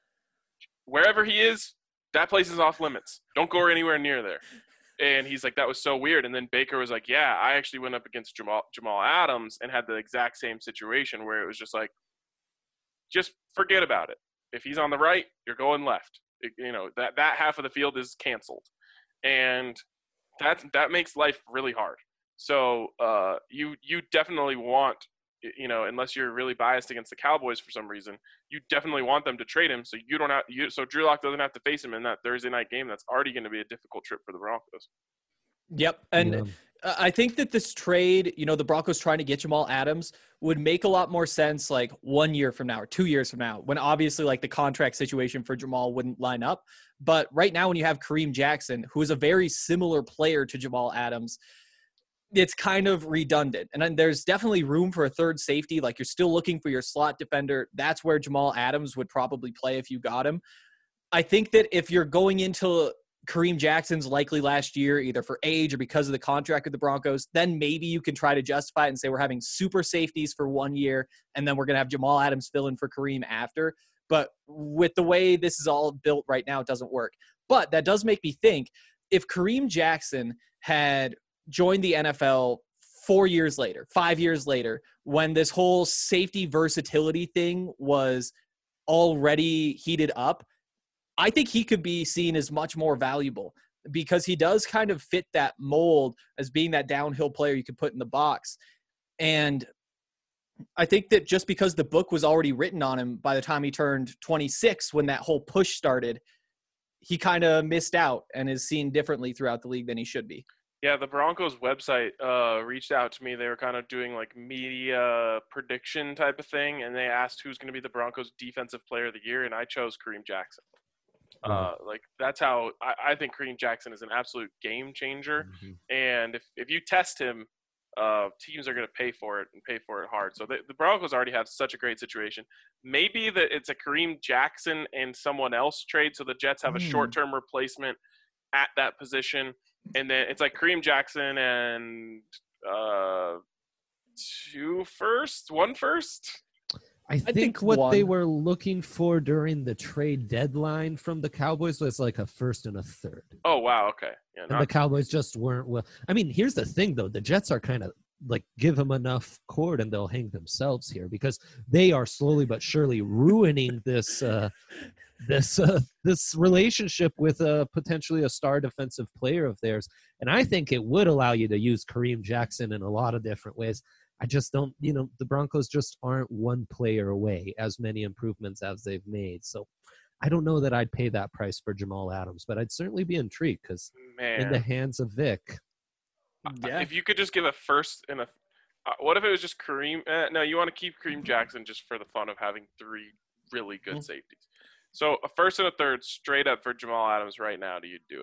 wherever he is, that place is off limits. Don't go anywhere near there. And he's like, that was so weird. And then Baker was like, yeah, I actually went up against Jamal, Jamal Adams and had the exact same situation where it was just like, just forget about it. If he's on the right, you're going left. It, you know, that, that half of the field is canceled. And that, that makes life really hard. So uh, you you definitely want, you know, unless you're really biased against the Cowboys for some reason, you definitely want them to trade him so you don't have you so Drew Lock doesn't have to face him in that Thursday night game. That's already going to be a difficult trip for the Broncos. Yep. And Yeah. uh, I think that this trade, you know, the Broncos trying to get Jamal Adams would make a lot more sense like one year from now or two years from now, when obviously like the contract situation for Jamal wouldn't line up. But right now when you have Kareem Jackson, who is a very similar player to Jamal Adams, it's kind of redundant. And then there's definitely room for a third safety. Like, you're still looking for your slot defender. That's where Jamal Adams would probably play if you got him. I think that if you're going into Kareem Jackson's likely last year, either for age or because of the contract with the Broncos, then maybe you can try to justify it and say we're having super safeties for one year, and then we're going to have Jamal Adams fill in for Kareem after. But with the way this is all built right now, it doesn't work. But that does make me think, if Kareem Jackson had joined the N F L four years later, five years later, when this whole safety versatility thing was already heated up, I think he could be seen as much more valuable because he does kind of fit that mold as being that downhill player you could put in the box. And I think that just because the book was already written on him by the time he turned twenty-six, when that whole push started, he kind of missed out and is seen differently throughout the league than he should be. Yeah, the Broncos website uh, reached out to me. They were kind of doing like media prediction type of thing, and they asked who's going to be the Broncos defensive player of the year, and I chose Kareem Jackson. Uh, like, that's how I, I think Kareem Jackson is an absolute game changer. Mhm. And if, if you test him, uh, teams are going to pay for it and pay for it hard. So the, the Broncos already have such a great situation. Maybe that it's a Kareem Jackson and someone else trade, so the Jets have a Hmm. short-term replacement at that position. And then it's like Kareem Jackson and uh, two first, one first. I think, think what they one. were looking for during the trade deadline from the Cowboys was like a first and a third. Oh, wow. Okay. Yeah, And the not, Cowboys just weren't well. I mean, here's the thing, though. The Jets are kind of like, give them enough cord and they'll hang themselves here because they are slowly but surely ruining this uh, this uh, this relationship with uh, potentially a star defensive player of theirs. And I think it would allow you to use Kareem Jackson in a lot of different ways. I just don't, you know, the Broncos just aren't one player away as many improvements as they've made. So I don't know that I'd pay that price for Jamal Adams, but I'd certainly be intrigued because man. in the hands of Vic. Yeah. If you could just give a first and a uh, – what if it was just Kareem uh, – no, you want to keep Kareem Jackson just for the fun of having three really good Mhm. safeties. So a first and a third straight up for Jamal Adams right now, do you do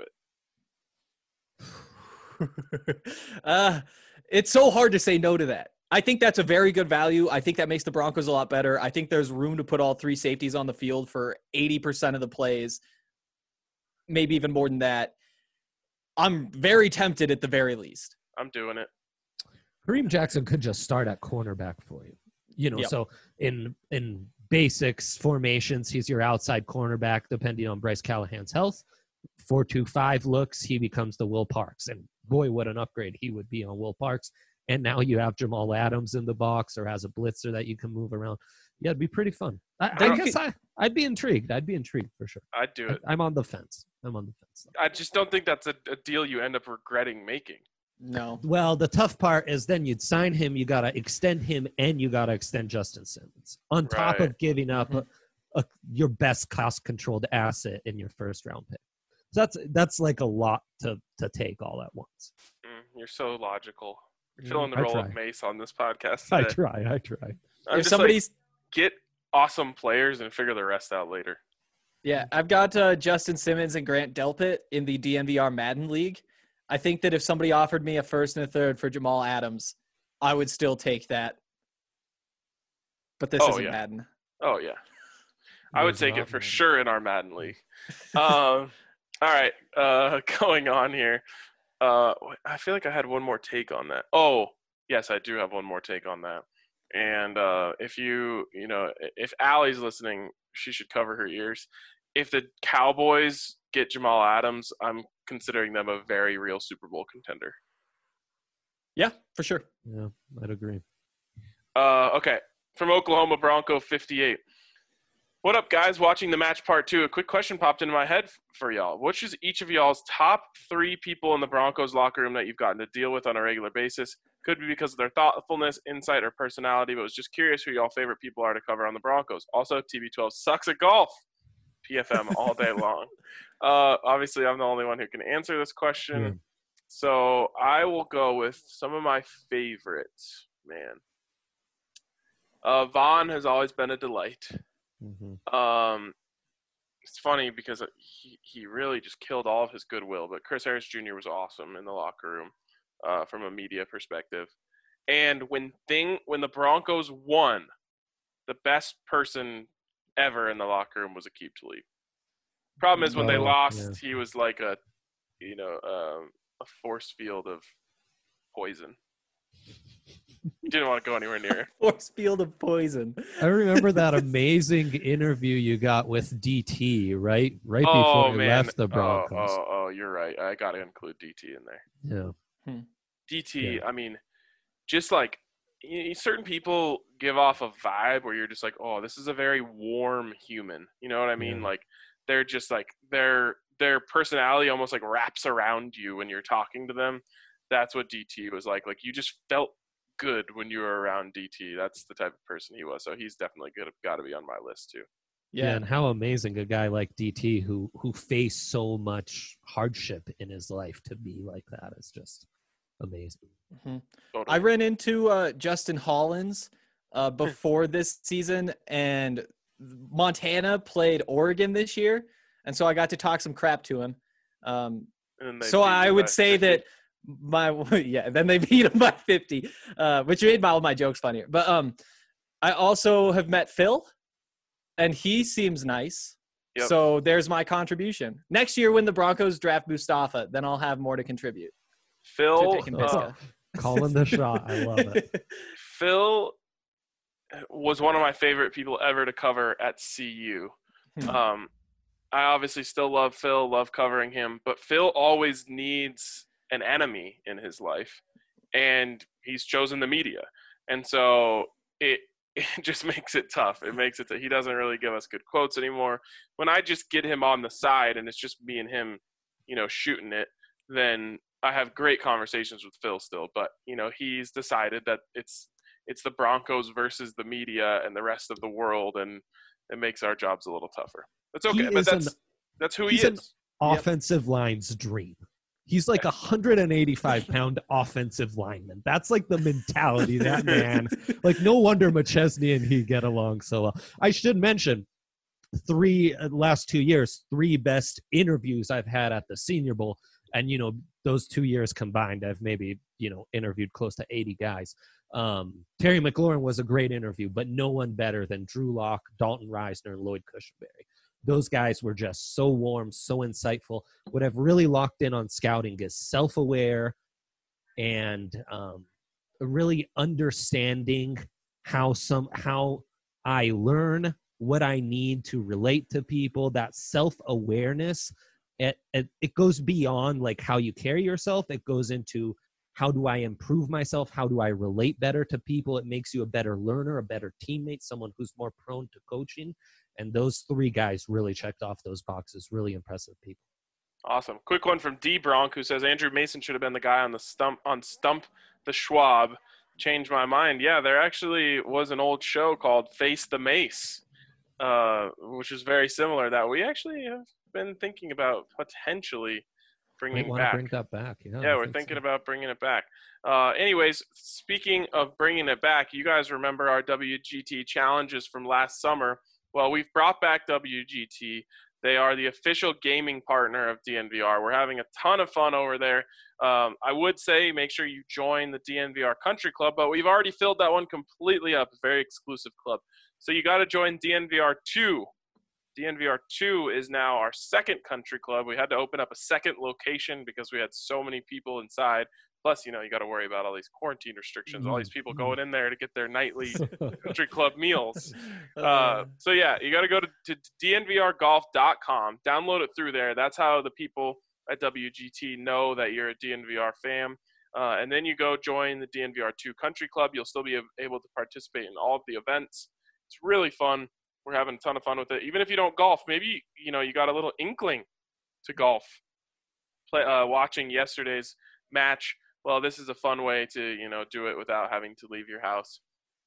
it? uh, it's so hard to say no to that. I think that's a very good value. I think that makes the Broncos a lot better. I think there's room to put all three safeties on the field for eighty percent of the plays, maybe even more than that. I'm very tempted at the very least. I'm doing it. Kareem Jackson could just start at cornerback for you. You know, Yep. so in in basics formations, he's your outside cornerback, depending on Bryce Callahan's health. four two five looks, he becomes the Will Parks. And boy, what an upgrade he would be on Will Parks. And now you have Jamal Adams in the box or has a blitzer that you can move around. Yeah, it'd be pretty fun. I, Then I you guess could- I, I'd be intrigued. I'd be intrigued for sure. I'd do it. I, I'm on the fence. I'm on the fence. I just don't think that's a, a deal you end up regretting making. No. Well, the tough part is then you'd sign him, you got to extend him, and you got to extend Justin Simmons on top Right. of giving up a, a, your best cost-controlled asset in your first-round pick. So that's that's like a lot to to take all at once. Mm, you're so logical. You're Mm, filling the I role try. of Mace on this podcast I today. try. I try. I'm If just somebody's like, get awesome players and figure the rest out later. Yeah, I've got uh, Justin Simmons and Grant Delpit in the D N V R Madden League. I think that if somebody offered me a first and a third for Jamal Adams, I would still take that. But this Oh, isn't yeah. Madden. Oh, yeah. I would It is take not it for Madden. sure in our Madden League. um, all right, uh, going on here. Uh, I feel like I had one more take on that. Oh, yes, I do have one more take on that. And uh, if you, you know, if Allie's listening, she should cover her ears. If the Cowboys get Jamal Adams, I'm considering them a very real Super Bowl contender. Yeah, for sure. Yeah, I'd agree. Uh, okay, from Oklahoma Bronco fifty-eight. What up, guys? Watching the match part two. A quick question popped into my head for y'all. Which is each of y'all's top three people in the Broncos locker room that you've gotten to deal with on a regular basis? Could be because of their thoughtfulness, insight, or personality, but was just curious who y'all favorite people are to cover on the Broncos. Also, T B twelve sucks at golf. P F M all day long. Uh, obviously, I'm the only one who can answer this question. Yeah. So I will go with some of my favorites, man. Uh, Vaughn has always been a delight. Mm-hmm. Um, it's funny because he, he really just killed all of his goodwill, but Chris Harris Junior was awesome in the locker room uh, from a media perspective. And when thing when the Broncos won, the best person ever in the locker room was Aqib Talib. Problem is when they Oh, lost, yeah. he was like a, you know, um, a force field of poison. He didn't want to go anywhere near it. Force field of poison. I remember that amazing interview you got with D T, right? Right Oh, before he man. left the Broncos. Oh, oh, oh, you're right. I got to include D T in there. Yeah. D T, Yeah. I mean, just like y- certain people give off a vibe where you're just like, oh, this is a very warm human. You know what I mean? Yeah. Like they're just like their their personality almost like wraps around you when you're talking to them. That's what D T was like. Like you just felt good when you were around D T. That's the type of person he was. So he's definitely good. Got to be on my list too. Yeah. Yeah. And how amazing a guy like D T who who faced so much hardship in his life to be like that is just amazing. Mhm. Totally. I ran into uh, Justin Hollins uh, before this season, and Montana played Oregon this year, and so I got to talk some crap to him. Um, And then they so beat I you would by say fifty. that my yeah, then they beat him by fifty, uh, which made my, all my jokes funnier. But um, I also have met Phil, and he seems nice. Yep. So there's my contribution. Next year, when the Broncos draft Mustafa, then I'll have more to contribute. Phil, to taking uh, Visca. Calling the shot. I love it. Phil was one of my favorite people ever to cover at C U. Hmm. Um, I obviously still love Phil, love covering him, but Phil always needs an enemy in his life, and he's chosen the media. And so it it just makes it tough. It makes it that he doesn't really give us good quotes anymore. When I just get him on the side and it's just me and him, you know, shooting it, then I have great conversations with Phil still. But, you know, he's decided that it's it's the Broncos versus the media and the rest of the world, and it makes our jobs a little tougher. That's okay, He but is that's an- that's who he he's an is. offensive line's dream. He's like a one hundred eighty-five pound offensive lineman. That's like the mentality of that man. Like, no wonder McChesney and he get along so well. I should mention, three uh, last two years, three best interviews I've had at the Senior Bowl. And, you know, those two years combined, I've maybe, you know, interviewed close to eighty guys. Um, Terry McLaurin was a great interview, but no one better than Drew Lock, Dalton Reisner, and Lloyd Cushenberry. Those guys were just so warm, so insightful. What I've really locked in on scouting is self-aware and um, really understanding how some how I learn, what I need to relate to people. That self-awareness, it, it, it goes beyond like how you carry yourself. It goes into how do I improve myself? How do I relate better to people? It makes you a better learner, a better teammate, someone who's more prone to coaching. And those three guys really checked off those boxes. Really impressive people. Awesome. Quick one from D Bronk, who says Andrew Mason should have been the guy on the stump on Stump the Schwab. Changed my mind. Yeah, there actually was an old show called Face the Mace, uh, which is very similar that we actually have been thinking about potentially bringing Might want to back. bring that back. Yeah, Yeah, I we're think thinking so. about bringing it back. Uh, anyways, speaking of bringing it back, you guys remember our W G T challenges from last summer. Well, we've brought back W G T. They are the official gaming partner of D N V R. We're having a ton of fun over there. Um, I would say make sure you join the D N V R Country Club, but we've already filled that one completely up. A very exclusive club. So you got to join D N V R two. D N V R two is now our second country club. We had to open up a second location because we had so many people inside. Plus, you know, you got to worry about all these quarantine restrictions, all these people going in there to get their nightly country club meals. Uh, so, yeah, you got to go to, to D N V R golf dot com, download it through there. That's how the people at W G T know that you're a D N V R fam. Uh, and then you go join the D N V R two Country Club. You'll still be able to participate in all of the events. It's really fun. We're having a ton of fun with it. Even if you don't golf, maybe, you know, you got a little inkling to golf. Play, uh, watching yesterday's match. Well, this is a fun way to, you know, do it without having to leave your house.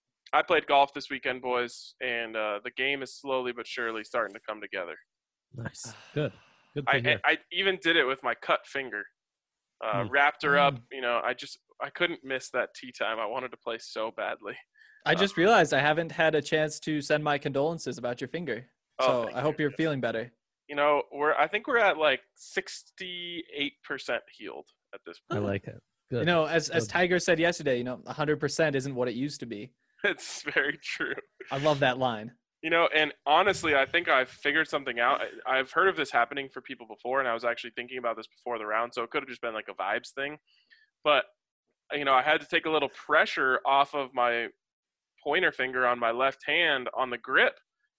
I played golf this weekend, boys, and uh, the game is slowly but surely starting to come together. Nice. Good. Good to I, hear. I, I even did it with my cut finger. Uh, Hmm. Wrapped her up. You know, I just I couldn't miss that tee time. I wanted to play so badly. I just realized I haven't had a chance to send my condolences about your finger. Oh, So thank I hope you. you're feeling better. You know, we're I think we're at like sixty-eight percent healed at this I point. like it. Good. You know, as as Good. Tiger said yesterday, you know, one hundred percent isn't what it used to be. It's very true. I love that line. You know, and honestly, I think I've figured something out. I, I've heard of this happening for people before, and I was actually thinking about this before the round, so it could have just been like a vibes thing. But, you know, I had to take a little pressure off of my pointer finger on my left hand on the grip,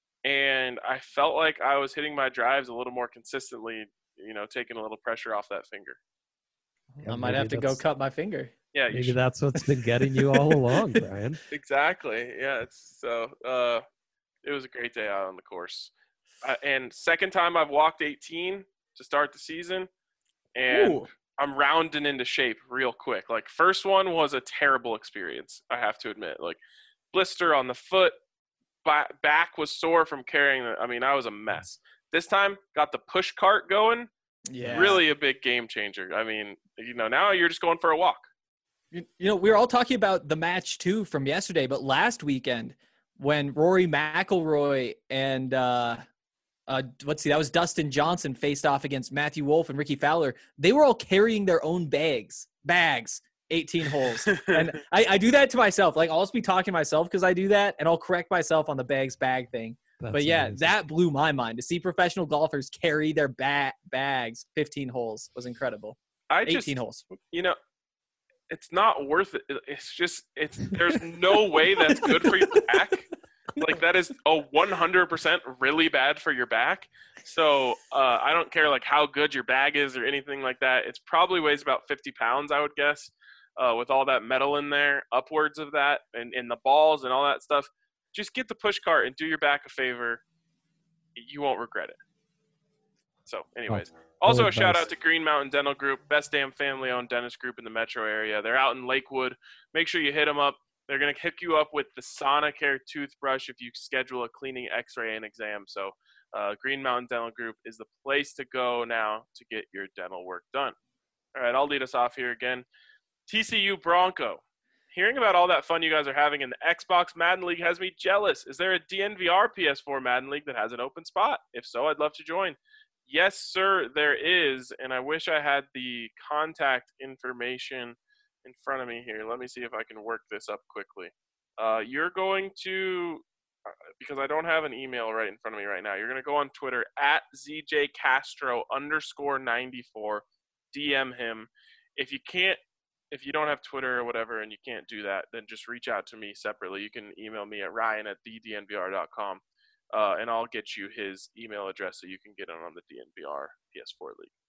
and I felt like I was hitting my drives a little more consistently, you know, taking a little pressure off that finger. Yeah, I might maybe have to go that's- cut my finger. Yeah, you Maybe should. that's what's been getting you all along, Brian. Exactly. Yeah. It's, so uh, it was a great day out on the course. Uh, and second time I've walked eighteen to start the season, and Ooh. I'm rounding into shape real quick. Like first one was a terrible experience, I have to admit. Like blister on the foot, ba- back was sore from carrying the. I mean, I was a mess. This time got the push cart going. Yeah. Really a big game changer. I mean, you know, now you're just going for a walk. You, you know, we were all talking about the match too from yesterday, but last weekend when Rory McIlroy and uh, uh, let's see, that was Dustin Johnson faced off against Matthew Wolff and Ricky Fowler. They were all carrying their own bags, bags, eighteen holes. And I, I do that to myself. Like I'll just be talking to myself because I do that, and I'll correct myself on the bags bag thing. That's But yeah, amazing. that blew my mind. To see professional golfers carry their ba- bags fifteen holes was incredible. I just, eighteen holes. you know, it's not worth it. It's just, it's, there's no way that's good for your back. Like that is a one hundred percent really bad for your back. So uh, I don't care like how good your bag is or anything like that. It's probably weighs about fifty pounds, I would guess, uh, with all that metal in there, upwards of that, and, and the balls and all that stuff. Just get the push cart and do your back a favor. You won't regret it. So anyways, Oh, also a advice. shout out to Green Mountain Dental Group, best damn family owned dentist group in the metro area. They're out in Lakewood. Make sure you hit them up. They're going to hook you up with the Sonicare toothbrush if you schedule a cleaning, x-ray, and exam. So uh, Green Mountain Dental Group is the place to go now to get your dental work done. All right, I'll lead us off here again. T C U Bronco. Hearing about all that fun you guys are having in the Xbox Madden League has me jealous. Is there a D N V R P S four Madden League that has an open spot? If so, I'd love to join. Yes, sir, there is, and I wish I had the contact information in front of me here. Let me see if I can work this up quickly. Uh, you're going to, uh, because I don't have an email right in front of me right now, you're going to go on Twitter at Z J Castro underscore ninety-four, D M him. If you can't, if you don't have Twitter or whatever and you can't do that, then just reach out to me separately. You can email me at ryan at the d n v r dot com, uh, and I'll get you his email address so you can get in on the D N V R P S four League.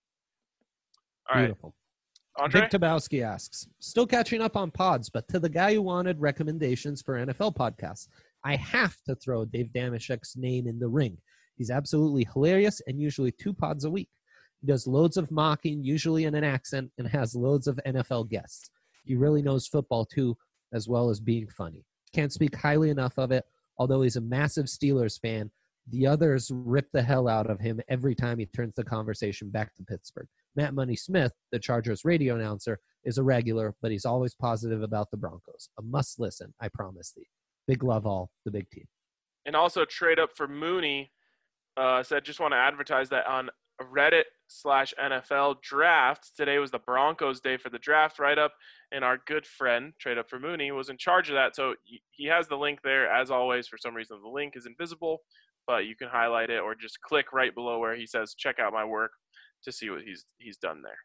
All right, Beautiful. Andre? Vic Tabowski asks, still catching up on pods, but to the guy who wanted recommendations for N F L podcasts, I have to throw Dave Damashek's name in the ring. He's absolutely hilarious and usually two pods a week. He does loads of mocking, usually in an accent, and has loads of N F L guests. He really knows football, too, as well as being funny. Can't speak highly enough of it, although he's a massive Steelers fan. The others rip the hell out of him every time he turns the conversation back to Pittsburgh. Matt Money Smith, the Chargers radio announcer, is a regular, but he's always positive about the Broncos. A must listen, I promise thee. Big love all, the big team. And also trade up for Mooney uh, said, just want to advertise that on Reddit slash N F L draft. Today was the Broncos day for the draft write-up, and our good friend, Trade Up for Mooney, was in charge of that. So he has the link there. As always, for some reason, the link is invisible, but you can highlight it or just click right below where he says, check out my work to see what he's he's done there.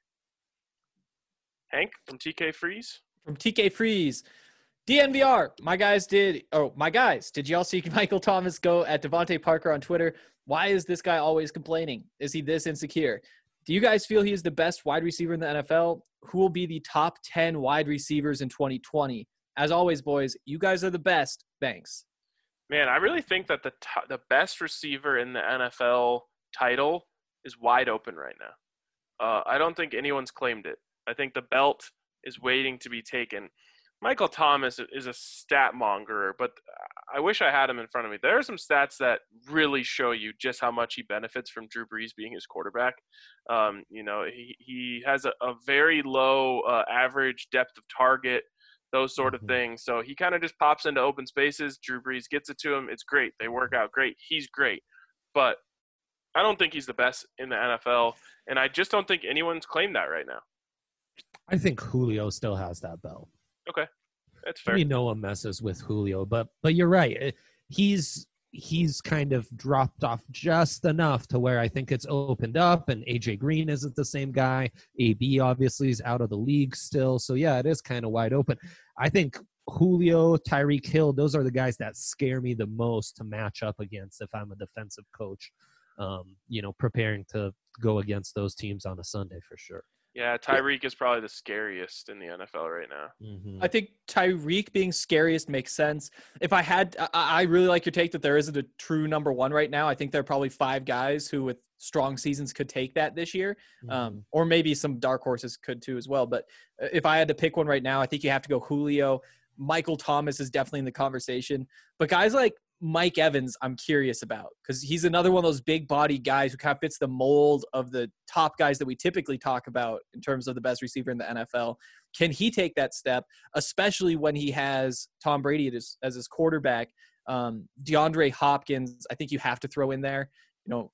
Hank from T K Freeze. From T K Freeze. D N V R, my guys did, oh, my guys, did y'all see Michael Thomas go at Devontae Parker on Twitter? Why is this guy always complaining? Is he this insecure? Do you guys feel he is the best wide receiver in the N F L? Who will be the top ten wide receivers in twenty twenty? As always, boys, you guys are the best. Thanks. Man, I really think that the t- the best receiver in the N F L title is wide open right now. Uh, I don't think anyone's claimed it. I think the belt is waiting to be taken. Michael Thomas is a stat mongerer, but I wish I had him in front of me. There are some stats that really show you just how much he benefits from Drew Brees being his quarterback. Um, you know, he, he has a, a very low uh, average depth of target, those sort of things. So he kind of just pops into open spaces. Drew Brees gets it to him. It's great. They work out great. He's great. But I don't think he's the best in the N F L, and I just don't think anyone's claimed that right now. I think Julio still has that belt. Okay, that's fair. I mean, no one messes with Julio, but but you're right. He's he's kind of dropped off just enough to where I think it's opened up, and A J Green isn't the same guy. A B obviously is out of the league still, so yeah, it is kind of wide open. I think Julio, Tyreek Hill, those are the guys that scare me the most to match up against if I'm a defensive coach, um, you know, preparing to go against those teams on a Sunday for sure. Yeah, Tyreek is probably the scariest in the N F L right now. Mm-hmm. I think Tyreek being scariest makes sense. If I had, I, I really like your take that there isn't a true number one right now. I think there are probably five guys who with strong seasons could take that this year. Mm-hmm. Um, or maybe some dark horses could too as well. But if I had to pick one right now, I think you have to go Julio. Michael Thomas is definitely in the conversation. But guys like Mike Evans, I'm curious about because he's another one of those big body guys who kind of fits the mold of the top guys that we typically talk about in terms of the best receiver in the N F L. Can he take that step, especially when he has Tom Brady as, as his quarterback? Um, DeAndre Hopkins, I think you have to throw in there. You know,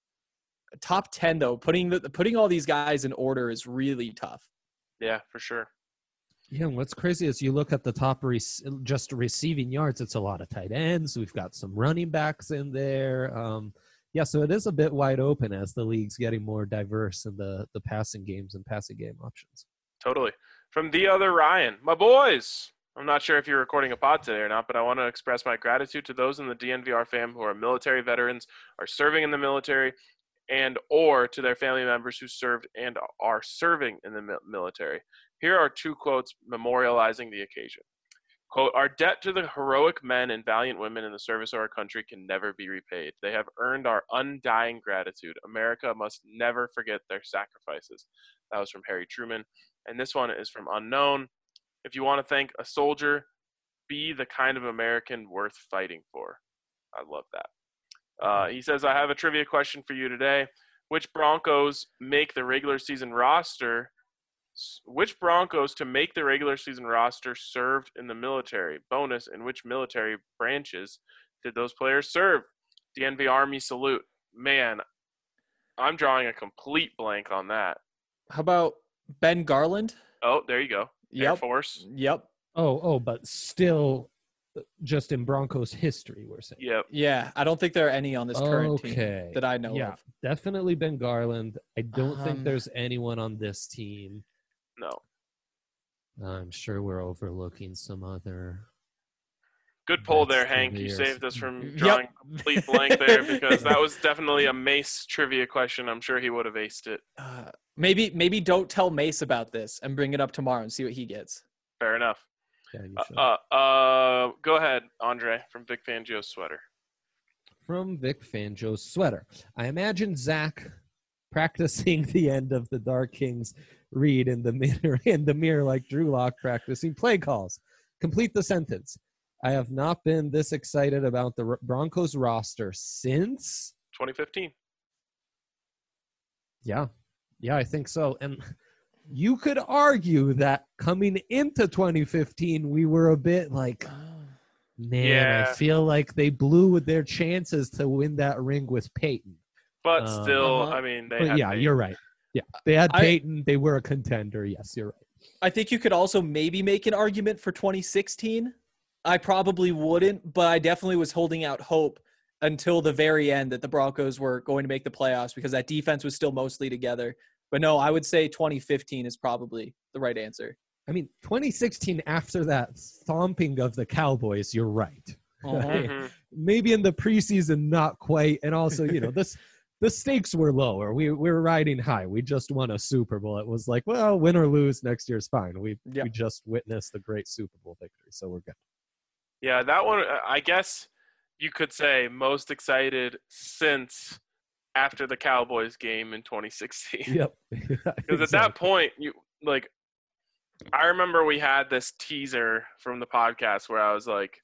top ten though, putting the, putting all these guys in order is really tough. Yeah, for sure. Yeah, and what's crazy is you look at the top re- just receiving yards, it's a lot of tight ends. We've got some running backs in there. Um, yeah, so it is a bit wide open as the league's getting more diverse in the, the passing games and passing game options. Totally. From the other Ryan, my boys. I'm not sure if you're recording a pod today or not, but I want to express my gratitude to those in the D N V R fam who are military veterans, are serving in the military, and or to their family members who served and are serving in the military. Here are two quotes memorializing the occasion. Quote, "Our debt to the heroic men and valiant women in the service of our country can never be repaid. They have earned our undying gratitude. America must never forget their sacrifices." That was from Harry Truman. And this one is from Unknown. "If you want to thank a soldier, be the kind of American worth fighting for." I love that. Uh, he says, "I have a trivia question for you today. Which Broncos make the regular season roster? Which Broncos to make the regular season roster served in the military? Bonus, in which military branches did those players serve? D N V Army salute." Man, I'm drawing a complete blank on that. How about Ben Garland? Oh, there you go. Air Yep. Force. Yep. Oh, oh, but still just in Broncos history, we're saying. Yep. Yeah, I don't think there are any on this current Okay. team that I know Yeah, of. definitely Ben Garland. I don't Um, think there's anyone on this team. No. I'm sure we're overlooking some other. Good pull That's there, Hank. You careers. saved us from Yep. drawing a complete blank there because that was definitely a Mace trivia question. I'm sure he would have aced it. Uh, maybe maybe don't tell Mace about this and bring it up tomorrow and see what he gets. Fair enough. Yeah, you should. Uh, uh, uh, go ahead, Andre, from Vic Fangio's sweater. From Vic Fangio's sweater. I imagine Zach practicing the end of the Dark Kings read in the mirror in the mirror like Drew Lock practicing play calls. Complete the sentence. I have not been this excited about the Broncos roster since twenty fifteen. Yeah. Yeah, I think so. And you could argue that coming into twenty fifteen, we were a bit like, man, Yeah. I feel like they blew their chances to win that ring with Peyton. But Um, still, Uh-huh. I mean, they But had yeah, Peyton. you're right. Yeah, they had I- Peyton. They were a contender. Yes, you're right. I think you could also maybe make an argument for twenty sixteen. I probably wouldn't, but I definitely was holding out hope until the very end that the Broncos were going to make the playoffs because that defense was still mostly together. But no, I would say twenty fifteen is probably the right answer. I mean, twenty sixteen, after that stomping of the Cowboys, you're right. Mhm. Maybe in the preseason, not quite. And also, you know, this the stakes were lower. We, we were riding high. We just won a Super Bowl. It was like, well, win or lose, next year's fine. We, Yeah. we just witnessed a great Super Bowl victory, so we're good. Yeah, that one, I guess you could say most excited since after the Cowboys game in twenty sixteen. Yep. Because at that point, you like, I remember we had this teaser from the podcast where I was like,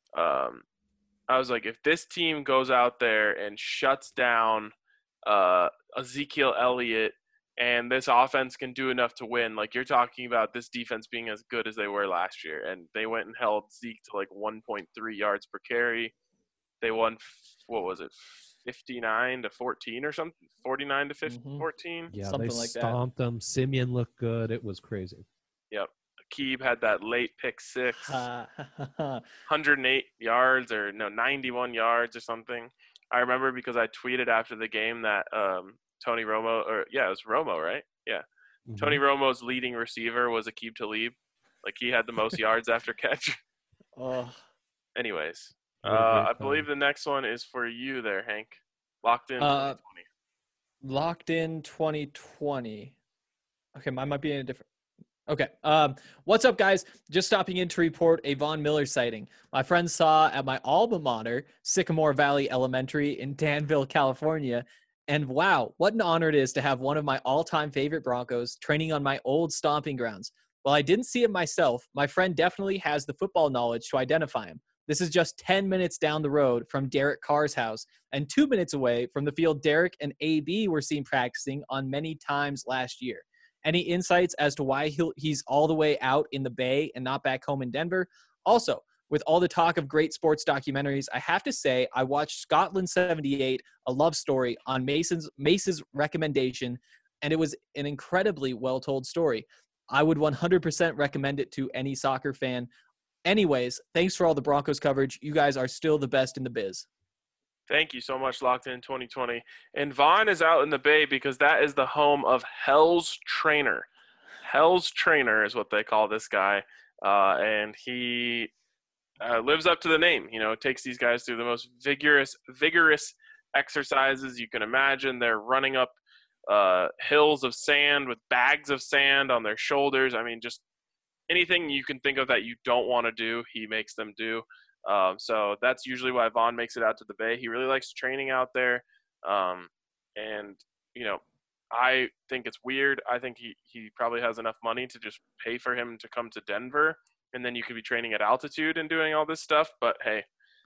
um, I was like, if this team goes out there and shuts down uh, Ezekiel Elliott and this offense can do enough to win, like you're talking about this defense being as good as they were last year. And they went and held Zeke to like one point three yards per carry. They won, what was it, fifty-nine to fourteen or something? forty-nine to Mhm. fourteen? Yeah, Something they like that. stomped them. Simeon looked good. It was crazy. Yep. Akib had that late pick six. Ha, ha, ha, ha. one hundred eight yards or no ninety-one yards or something. I remember because I tweeted after the game that um, Tony Romo or yeah, it was Romo, right? Yeah. Mhm. Tony Romo's leading receiver was Akib Talib. Like he had the most yards after catch. Oh, Anyways, What a uh, great I time. believe the next one is for you there, Hank. Locked in Uh, twenty twenty. locked in twenty twenty. Okay, mine might be in a different. Okay. Um, what's up, guys? Just stopping in to report a Von Miller sighting. My friend saw at my alma mater, Sycamore Valley Elementary in Danville, California. And wow, what an honor it is to have one of my all-time favorite Broncos training on my old stomping grounds. While I didn't see it myself, my friend definitely has the football knowledge to identify him. This is just ten minutes down the road from Derek Carr's house and two minutes away from the field Derek and A B were seen practicing on many times last year. Any insights as to why he'll, he's all the way out in the Bay and not back home in Denver? Also, with all the talk of great sports documentaries, I have to say I watched Scotland seventy-eight, A Love Story, on Mason's Mace's recommendation, and it was an incredibly well-told story. I would one hundred percent recommend it to any soccer fan. Anyways, thanks for all the Broncos coverage. You guys are still the best in the biz. Thank you so much, Locked In twenty twenty. And Vaughn is out in the Bay because that is the home of Hell's Trainer. Hell's Trainer is what they call this guy. Uh, and he uh, lives up to the name. You know, takes these guys through the most vigorous, vigorous exercises you can imagine. They're running up uh, hills of sand with bags of sand on their shoulders. I mean, just anything you can think of that you don't want to do, he makes them do. Um, so that's usually why Vaughn makes it out to the Bay. He really likes training out there. Um, and, you know, I think it's weird. I think he, he probably has enough money to just pay for him to come to Denver. And then you could be training at altitude and doing all this stuff. But, hey,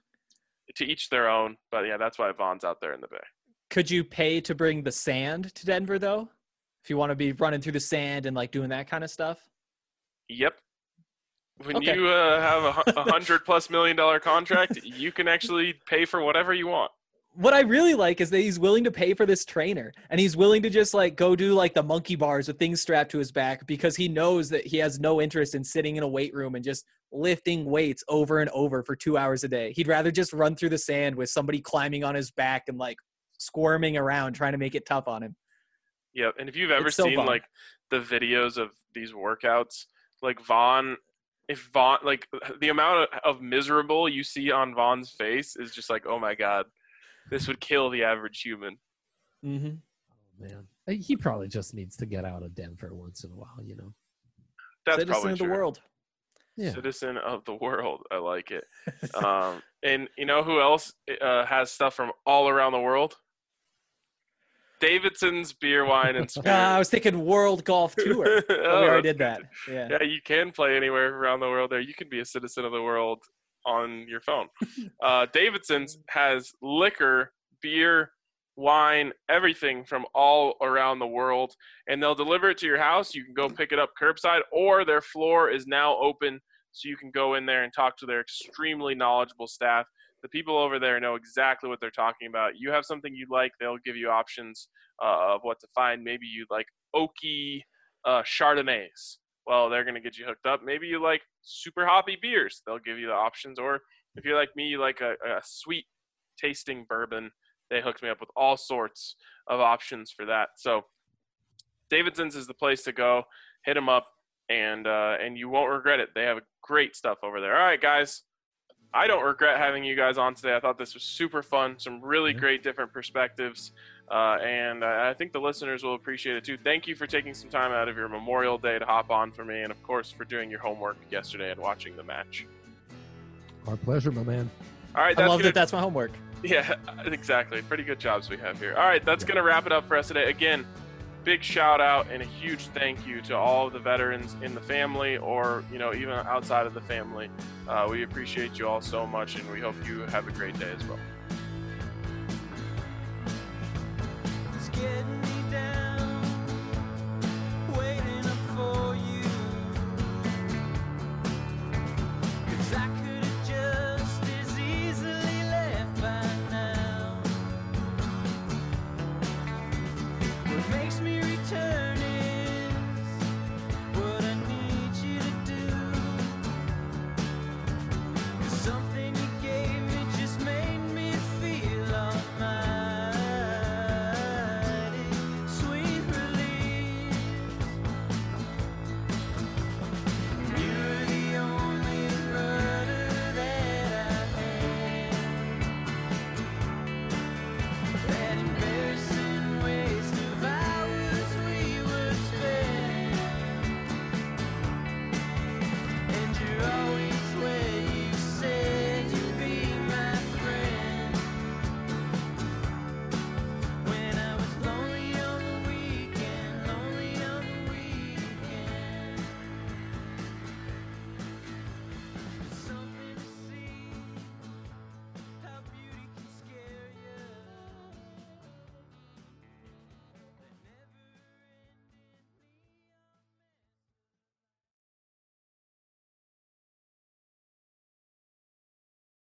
to each their own. But, yeah, that's why Vaughn's out there in the Bay. Could you pay to bring the sand to Denver, though? If you want to be running through the sand and, like, doing that kind of stuff? Yep. When Okay. you uh, have a, hu- a hundred plus million dollar contract, you can actually pay for whatever you want. What I really like is that he's willing to pay for this trainer, and he's willing to just like go do like the monkey bars with things strapped to his back because he knows that he has no interest in sitting in a weight room and just lifting weights over and over for two hours a day. He'd rather just run through the sand with somebody climbing on his back and like squirming around trying to make it tough on him. Yep. And if you've ever It's so seen fun. like the videos of these workouts, like Vaughn, if Vaughn, like the amount of, of miserable you see on Vaughn's face is just like, oh my God, this would kill the average human. Mm-hmm. Oh, man. He probably just needs to get out of Denver once in a while, you know? That's Citizen probably of the true. world. Yeah. Citizen of the world. I like it. um, and you know who else uh, has stuff from all around the world? Davidson's Beer, Wine, and Spirits. Ah, I was thinking World Golf Tour. But Oh, we already that's did that. Yeah. Yeah, you can play anywhere around the world there. You can be a citizen of the world on your phone. Uh, Davidson's has liquor, beer, wine, everything from all around the world, and they'll deliver it to your house. You can go pick it up curbside, or their floor is now open so you can go in there and talk to their extremely knowledgeable staff. The people over there know exactly what they're talking about. You have something you like, they'll give you options uh, of what to find. Maybe you like oaky uh, Chardonnays. Well, they're going to get you hooked up. Maybe you like super hoppy beers. They'll give you the options. Or if you're like me, you like a, a sweet tasting bourbon. They hooked me up with all sorts of options for that. So Davidson's is the place to go. Hit them up, and uh, and you won't regret it. They have great stuff over there. All right, guys. I don't regret having you guys on today. I thought this was super fun. Some really great different perspectives. Uh, and I think the listeners will appreciate it too. Thank you for taking some time out of your Memorial Day to hop on for me. And of course, for doing your homework yesterday and watching the match. Our pleasure, my man. All right. I That's love gonna, that that's my homework. Yeah, exactly. Pretty good jobs we have here. All right. That's yeah. going to wrap it up for us today. Again, big shout out and a huge thank you to all of the veterans in the family, or, you know, even outside of the family. Uh, we appreciate you all so much, and we hope you have a great day as well. It's getting